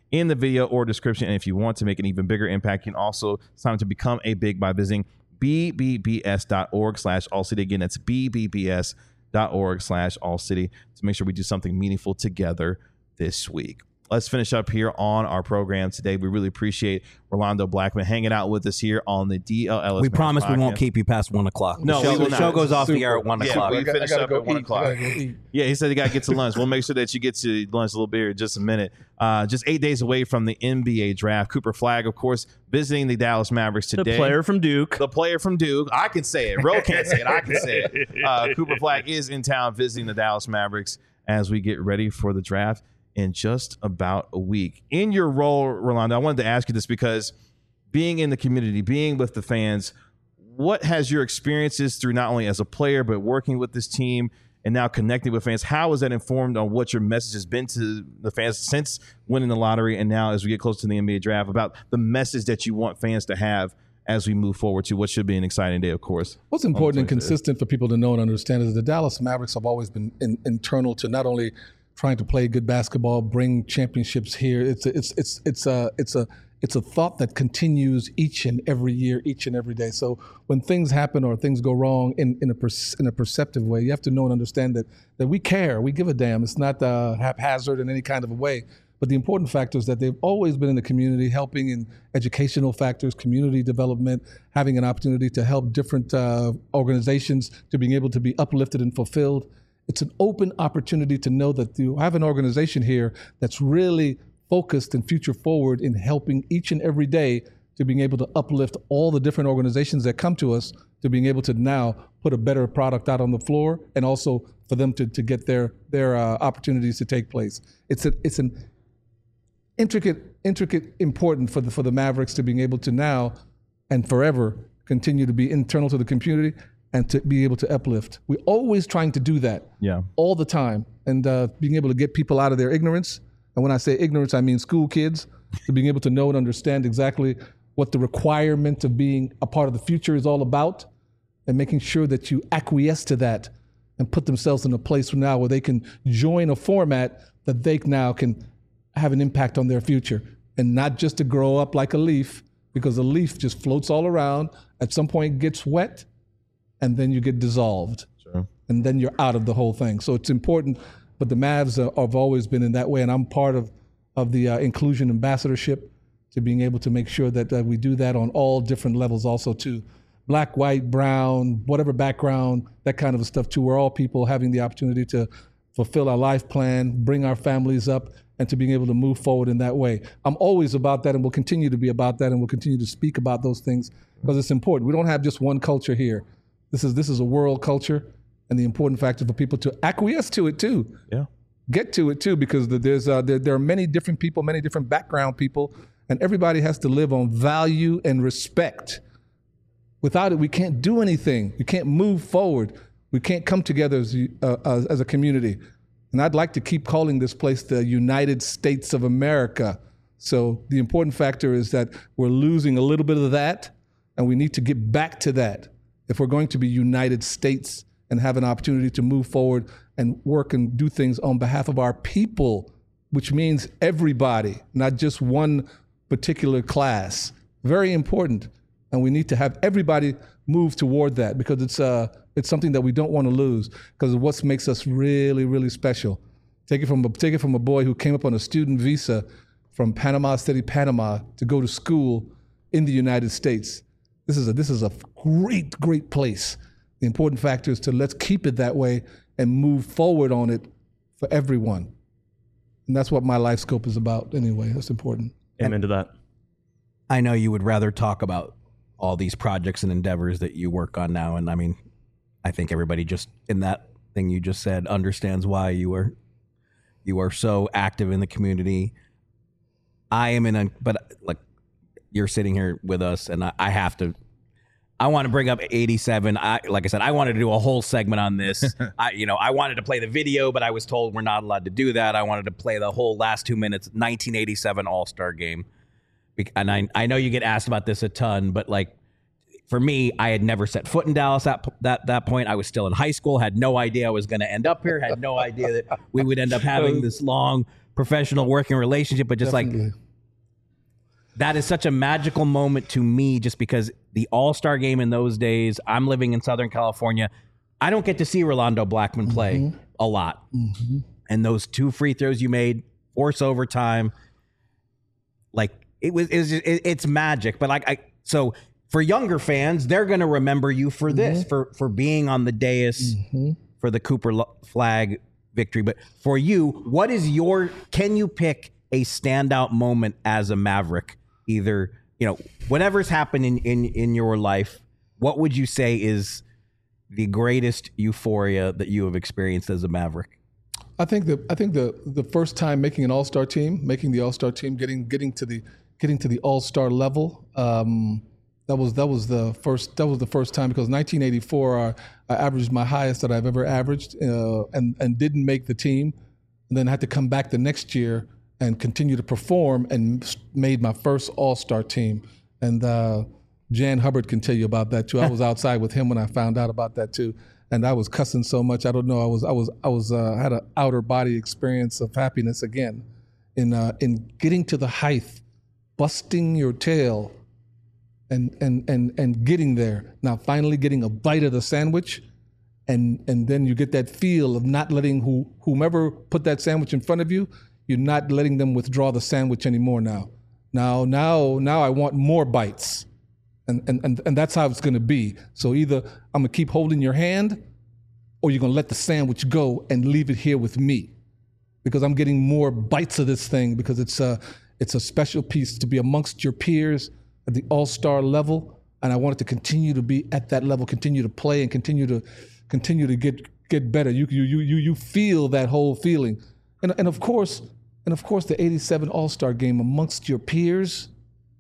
in the video or description. And if you want to make an even bigger impact, you can also sign up to become a big by visiting b b b s dot org slash all city. Again, that's b b b s dot org slash all city to make sure we do something meaningful together this week. Let's finish up here on our program today. We really appreciate Rolando Blackman hanging out with us here on the D L L S. We promise podcast. We won't keep you past one o'clock. No, the show, we will the not. show goes off Super. the air at one yeah, o'clock. we got, finish up go at one eat. o'clock. Yeah, he said he got to get to lunch. We'll make sure that you get to lunch a little bit in just a minute. Uh, just eight days away from the N B A draft. Cooper Flagg, of course, visiting the Dallas Mavericks today. The player from Duke. The player from Duke. I can say it. Ro can't say it. I can say it. Uh, Cooper Flagg is in town visiting the Dallas Mavericks as we get ready for the draft in just about a week. In your role, Rolando, I wanted to ask you this because being in the community, being with the fans, what has your experiences through not only as a player, but working with this team and now connecting with fans, how has that informed on what your message has been to the fans since winning the lottery and now as we get close to the N B A draft about the message that you want fans to have as we move forward to what should be an exciting day, of course? What's important and consistent for people to know and understand is the Dallas Mavericks have always been in, internal to not only trying to play good basketball, bring championships here. It's a, it's it's it's a it's a it's a thought that continues each and every year, each and every day. So when things happen or things go wrong in in a per, in a perceptive way, you have to know and understand that that we care, we give a damn. It's not uh, haphazard in any kind of a way. But the important factor is that they've always been in the community, helping in educational factors, community development, having an opportunity to help different uh, organizations to being able to be uplifted and fulfilled. It's an open opportunity to know that you have an organization here that's really focused and future forward in helping each and every day to being able to uplift all the different organizations that come to us to being able to now put a better product out on the floor and also for them to, to get their their uh, opportunities to take place. It's a, it's an intricate, intricate important for the for the Mavericks to being able to now and forever continue to be internal to the community and to be able to uplift. We're always trying to do that Yeah. all the time and uh, being able to get people out of their ignorance. And when I say ignorance, I mean school kids, to being able to know and understand exactly what the requirement of being a part of the future is all about and making sure that you acquiesce to that and put themselves in a place now where they can join a format that they now can have an impact on their future and not just to grow up like a leaf, because a leaf just floats all around, at some point gets wet, and then you get dissolved. Sure. And then you're out of the whole thing. So it's important, but the Mavs uh, have always been in that way, and I'm part of, of the uh, inclusion ambassadorship to being able to make sure that uh, we do that on all different levels also too. Black, white, brown, whatever background, that kind of stuff too. We're all people having the opportunity to fulfill our life plan, bring our families up, and to being able to move forward in that way. I'm always about that and will continue to be about that and will continue to speak about those things because it's important. We don't have just one culture here. This is this is a world culture, and the important factor for people to acquiesce to it too. Yeah. Get to it too, because there's uh, there, there are many different people, many different background people, and everybody has to live on value and respect. Without it, we can't do anything. We can't move forward. We can't come together as uh, as, as a community. And I'd like to keep calling this place the United States of America. So the important factor is that we're losing a little bit of that, and we need to get back to that if we're going to be United States and have an opportunity to move forward and work and do things on behalf of our people, which means everybody, not just one particular class. Very important. And we need to have everybody move toward that because it's uh it's something that we don't want to lose because of what makes us really, really special. Take it from a, take it from a boy who came up on a student visa from Panama City, Panama, to go to school in the United States. This is a this is a great, great place. The important factor is to let's keep it that way and move forward on it for everyone. And that's what my life scope is about anyway. That's important. Amen to that. I know you would rather talk about all these projects and endeavors that you work on now. And I mean, I think everybody just in that thing you just said understands why you are you are so active in the community. I am in a, but like you're sitting here with us and I, I have to, I want to bring up eighty-seven. I, like I said, I wanted to do a whole segment on this. I, you know, I wanted to play the video, but I was told we're not allowed to do that. I wanted to play the whole last two minutes, nineteen eighty-seven All-Star game. And I, I know you get asked about this a ton, but like for me, I had never set foot in Dallas at that, that point. I was still in high school, had no idea I was going to end up here, had no idea that we would end up having this long professional working relationship, but just Definitely. like that is such a magical moment to me just because the All-Star game in those days, I'm living in Southern California. I don't get to see Rolando Blackman play Mm-hmm. a lot. Mm-hmm. And those two free throws you made, force overtime, like it was, it was just, it, it's magic. But like, I, so for younger fans, they're going to remember you for this, Mm-hmm. for, for being on the dais for the Cooper Lo- Flag victory. But for you, what is your, can you pick a standout moment as a Maverick? Either, you know, whatever's happened in, in, in your life, what would you say is the greatest euphoria that you have experienced as a Maverick? I think the I think the the first time making an All-Star team, making the All-Star team, getting getting to the getting to the All-Star level. Um, that was that was the first that was the first time because nineteen eighty-four I, I averaged my highest that I've ever averaged uh, and and didn't make the team, and then had to come back the next year and continue to perform and made my first All-Star team. And uh, Jan Hubbard can tell you about that too. I was outside with him when I found out about that too. And I was cussing so much. I don't know. I was, I was, I was, uh, had an outer body experience of happiness again, in uh, in getting to the height, busting your tail, and and and and getting there. Now, finally, getting a bite of the sandwich, and and then you get that feel of not letting who whomever put that sandwich in front of you, you're not letting them withdraw the sandwich anymore. Now, now, now, now, I want more bites. And, and and and that's how it's going to be. So either I'm going to keep holding your hand or you're going to let the sandwich go and leave it here with me because I'm getting more bites of this thing because it's a, it's a special piece to be amongst your peers at the all-star level. And I want it to continue to be at that level, continue to play and continue to continue to get get better. You you you you feel that whole feeling. And and of course, and of course the eighty-seven All-Star game amongst your peers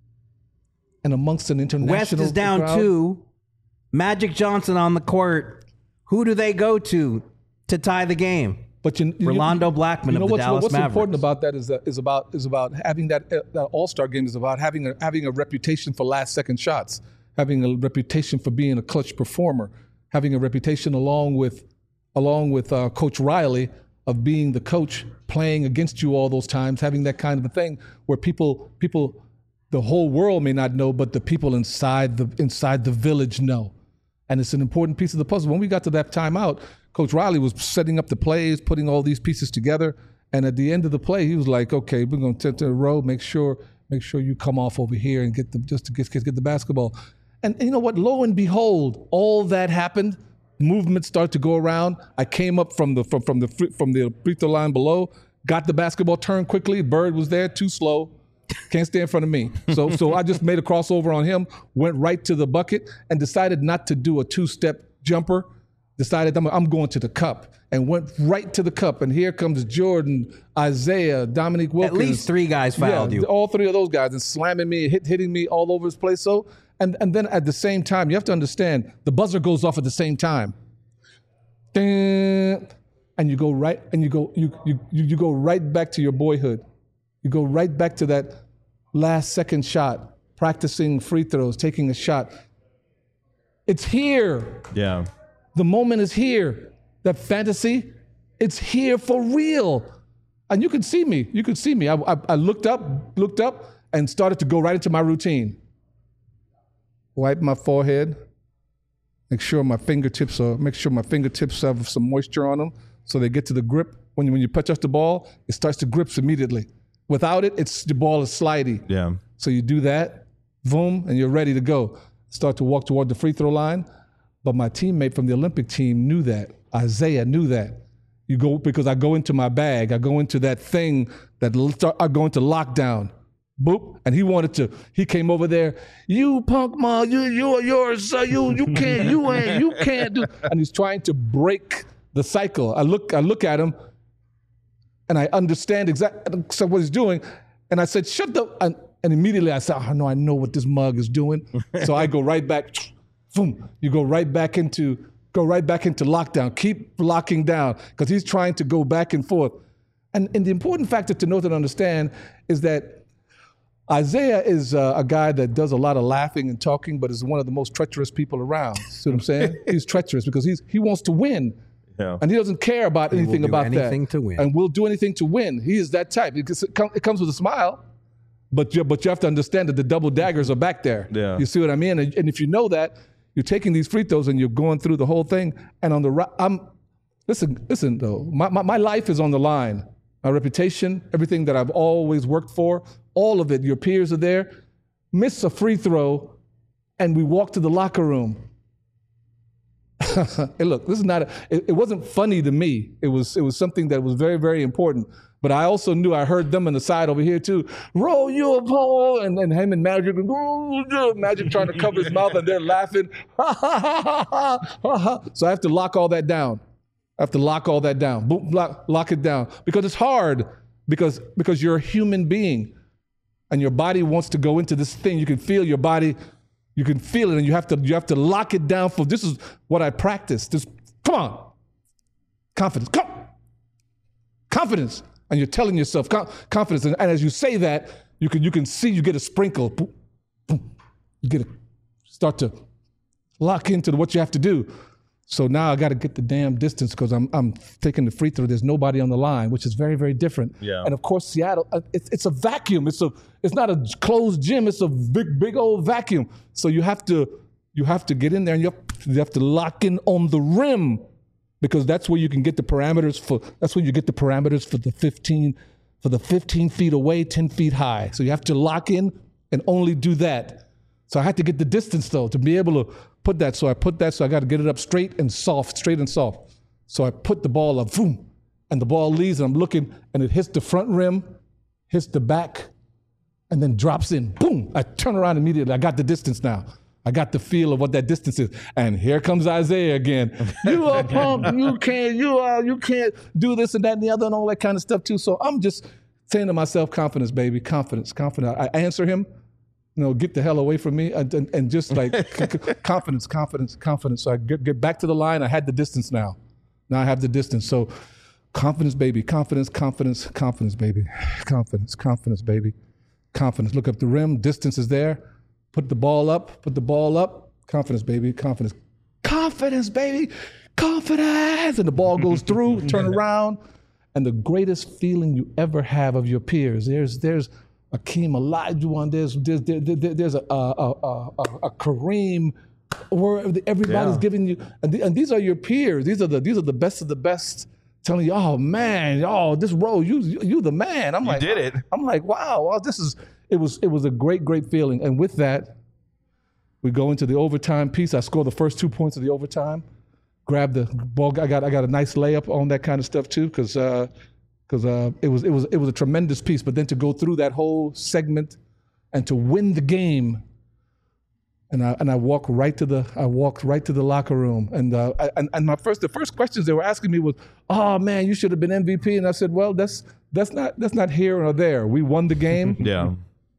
and amongst an international West is down crowd. two. Magic Johnson on the court. Who do they go to to tie the game? But you, you, Rolando Blackman you know of the what's, Dallas what's Mavericks. important about that is that is about is about having that, uh, that All-Star game is about having a having a reputation for last second shots, having a reputation for being a clutch performer, having a reputation along with along with uh, Coach Riley of being the coach playing against you all those times, having that kind of a thing where people people the whole world may not know, but the people inside the inside the village know. And it's an important piece of the puzzle. When we got to that timeout, Coach Riley was setting up the plays, putting all these pieces together. And at the end of the play, he was like, okay, we're going to the row, make sure make sure you come off over here and get the just to get, get the basketball. And, and you know what? Lo and behold, all that happened. Movements start to go around. I came up from the from, from the free, from the free throw line below, got the basketball, turned quickly. Bird was there, too slow. Can't stay in front of me. So so I just made a crossover on him, went right to the bucket, and decided not to do a two-step jumper. Decided I'm, I'm going to the cup, and went right to the cup. And here comes Jordan, Isaiah, Dominique Wilkins. At least three guys fouled yeah, you. all three of those guys, and slamming me, hit, hitting me all over his place. So and and then at the same time, you have to understand the buzzer goes off at the same time. Ding, and you go right, and you go you you you go right back to your boyhood. You go right back to that last second shot, practicing free throws, taking a shot. It's here. Yeah. The moment is here. That fantasy, it's here for real. And you could see me. You could see me. I, I, I looked up, looked up, and started to go right into my routine. Wipe my forehead. Make sure my fingertips are. Make sure my fingertips have some moisture on them, so they get to the grip. When you, when you touch the ball, it starts to grip immediately. Without it, it's the ball is slidey. Yeah. So you do that, boom, and you're ready to go. Start to walk toward the free throw line. But my teammate from the Olympic team knew that. Isaiah knew that. You go because I go into my bag. I go into that thing that I go into lockdown. Boop, and he wanted to. He came over there. You punk ma, you you yours. Uh, you you can't. You ain't. You can't do. And he's trying to break the cycle. I look. I look at him. And I understand exactly so what he's doing. And I said, shut the, and, and immediately I said, oh no, I know what this mug is doing. So I go right back, boom, you go right back into, go right back into lockdown. Keep locking down, because he's trying to go back and forth. And, and the important factor to note and understand is that Isaiah is uh, a guy that does a lot of laughing and talking, but is one of the most treacherous people around. See what I'm saying? He's treacherous because he's he wants to win. Yeah. And he doesn't care about will anything do about anything that. to win. And will do anything to win. He is that type. It, it comes with a smile, but you, but you have to understand that the double daggers are back there. Yeah. You see what I mean? And, and if you know that, you're taking these free throws and you're going through the whole thing. And on the right, I'm, listen, listen though, my, my, my life is on the line. My reputation, everything that I've always worked for, all of it, your peers are there. Miss a free throw, and we walk to the locker room. Hey, look, this is not, a, it, it wasn't funny to me. It was, it was something that was very, very important. But I also knew, I heard them on the side over here too, roll you a pole, and, and him and Magic, oh, Magic trying to cover his mouth, and they're laughing. So I have to lock all that down. I have to lock all that down, Boom, lock, lock it down. Because it's hard, because, because you're a human being, and your body wants to go into this thing. You can feel your body, you can feel it, and you have to, you have to lock it down for, this is what I practice. Just, come on. Confidence, come. Confidence. And you're telling yourself confidence. And, and as you say that, you can, you can see, you get a sprinkle. Boom, boom. You get to start to lock into what you have to do. So now I got to get the damn distance because I'm I'm taking the free throw. There's nobody on the line, which is very, very different. Yeah. And of course, Seattle, uh, it's it's a vacuum. It's a it's not a closed gym. It's a big, big old vacuum. So you have to you have to get in there and you have, you have to lock in on the rim, because that's where you can get the parameters for. That's where you get the parameters for the fifteen for the fifteen feet away, ten feet high. So you have to lock in and only do that. So I had to get the distance though to be able to put that. So I put that. So I got to get it up straight and soft, straight and soft. So I put the ball up, boom, and the ball leaves, and I'm looking, and it hits the front rim, hits the back, and then drops in. Boom! I turn around immediately. I got the distance now. I got the feel of what that distance is. And here comes Isaiah again. You are pumped. You can't. You are. You can't do this and that and the other and all that kind of stuff too. So I'm just saying to myself, confidence, baby, confidence, confidence. I answer him. You know, get the hell away from me, and, and, and just like confidence, confidence, confidence. So I get, get back to the line. I had the distance now. Now I have the distance. So confidence, baby, confidence, confidence, confidence, baby, confidence, confidence, baby, confidence. Look up the rim. Distance is there. Put the ball up. Put the ball up. Confidence, baby, confidence, confidence, baby, confidence. And the ball goes through. Turn around, and the greatest feeling you ever have of your peers. There's there's. Akeem Olajuwon, there's there's there, there, there's a a, a a a Kareem, where everybody's Yeah. giving you, and, the, and these are your peers. These are the these are the best of the best, telling you, oh man, oh this role, you you, you the man. I'm You like, did it. I'm like, wow, wow, this is it was it was a great great feeling. And with that, we go into the overtime piece. I score the first two points of the overtime. Grab the ball. I got I got a nice layup on that kind of stuff too, because. Uh, Because uh, it was it was it was a tremendous piece, but then to go through that whole segment and to win the game, and I and I walked right to the I walked right to the locker room, and uh, I, and and my first the first questions they were asking me was, "Oh man, you should have been M V P," and I said, "Well, that's that's not that's not here or there. We won the game." Yeah.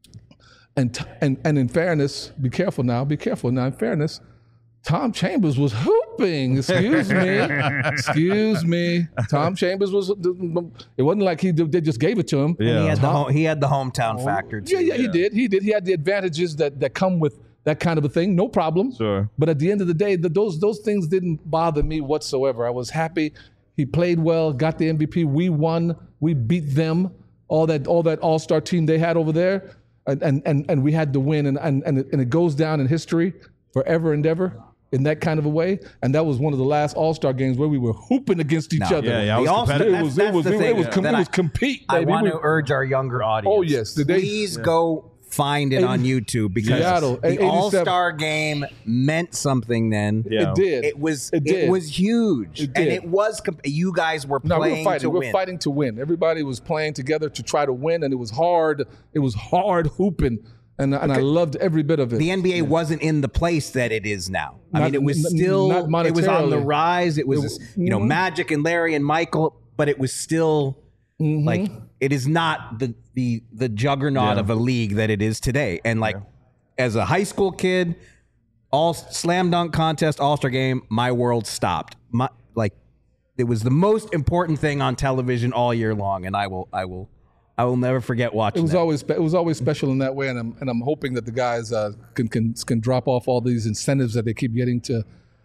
And t- and and in fairness, be careful now. Be careful now. In fairness, Tom Chambers was hooping. Excuse me. Excuse me. Tom Chambers was. It wasn't like he they just gave it to him. Yeah. He had the Tom- home, he had the hometown factor too. Yeah, yeah, he did. He did. He had the advantages that that come with that kind of a thing. No problem. Sure. But at the end of the day, the, those those things didn't bother me whatsoever. I was happy. He played well. Got the M V P. We won. We beat them. All that all that All Star team they had over there, and and and, and we had to win. And and and it, and it goes down in history forever and ever. In that kind of a way, and that was one of the last All-Star games where we were hooping against each No. other. Yeah, yeah, I was The All-Star- competitive. It was, That's- it was, that's it the was, thing com- that it was I- compete, I baby. want We to were- urge our younger audience. Oh, yes. Did they- Please go find it on YouTube, because Seattle, the eighty-seven All-Star game meant something then. Yeah. It did. It was It it, did. was huge, It and did. it was. Comp- you guys were No, we playing were fighting. to We were win. fighting to win. Everybody was playing together to try to win, and it was hard. It was hard hooping, and and I loved every bit of it. The N B A wasn't in the place that it is now. I Not- mean, it was n- still not it was on the monetarily. rise. It was, It was- you know, mhm. Magic and Larry and Michael, but it was still Mm-hmm. like it is not the the the juggernaut Yeah. of a league that it is today. And like as a high school kid, all slam dunk contest, All Star game, my world stopped. My like it was the most important thing on television all year long, and I will I will. I will never forget watching It was that. always spe- it was always special in that way, and I'm and I'm hoping that the guys uh, can can can drop off all these incentives that they keep getting to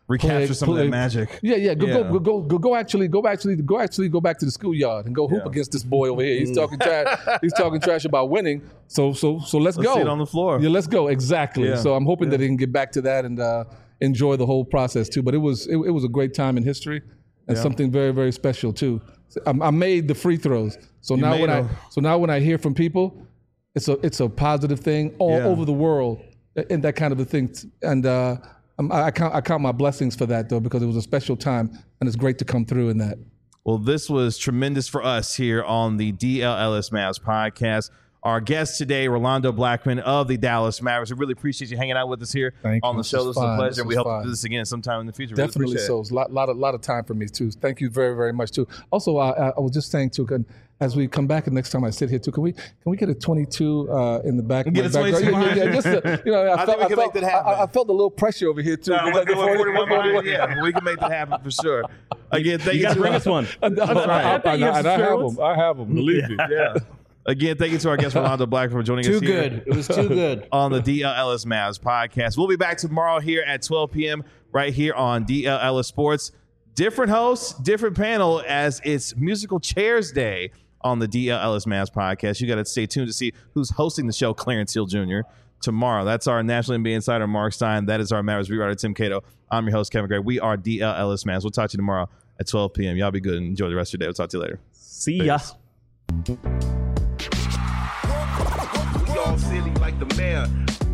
recapture play- some of play- that magic. Yeah, yeah. Go, Yeah. go, go, go, go, go. Actually, go actually, go actually, go back to the schoolyard and go hoop Yeah. against this boy over here. He's talking trash. He's talking trash about winning. So, so, so let's, Let's go. see it on the floor. Yeah, let's go. Exactly. Yeah. So I'm hoping that he can get back to that and uh, enjoy the whole process too. But it was, it, it was a great time in history and Yeah. something very, very special too. So I, I made the free throws. So now made when I, them. so now when I hear from people, it's a, it's a positive thing all Yeah. over the world, and that kind of a thing. And uh, I'm- I count, I count my blessings for that though, because it was a special time, and it's great to come through in that. Well, this was tremendous for us here on the D L Ellis Mavs podcast. Our guest today, Rolando Blackman of the Dallas Mavericks. We really appreciate you hanging out with us here Thank on you. the This show. was This was a fun. pleasure. This We was hope fun. to do this again sometime in the future. Really Definitely appreciate so. it. It's a lot, lot, of, lot of time for me too. Thank you very, very much too. Also, uh, I was just saying too, can, as we come back and next time I sit here too, can we can we get a twenty-two uh, in the back? Get a my background? twenty-two Yeah, yeah, yeah, just to, you know, I, I felt, think we I can felt, make that happen. I, I felt a little pressure over here too. No, Like the we're- forty, we're- forty-one. yeah, we can make that happen for sure. Again, thank You you, got to to bring us one. I, I, I, I, you have and I some have ones. them. I have them. Believe me. Yeah. Again, thank you to our guest Rolando Blackman for joining Too us here good. It was too good. on the D L Ellis Mavs podcast. We'll be back tomorrow here at twelve p.m. right here on D L Ellis Sports. Different hosts, different panel, as it's Musical Chairs Day on the D L Ellis Mavs podcast. You got to stay tuned to see who's hosting the show, Clarence Hill Junior tomorrow. That's our National N B A insider, Mark Stein. That is our Mavericks beat writer, Tim Cato. I'm your host, Kevin Gray. We are D L Ellis Mavs. We'll talk to you tomorrow at twelve p.m. Y'all be good and enjoy the rest of your day. We'll talk to you later. See ya. Peace. We all silly like the mayor.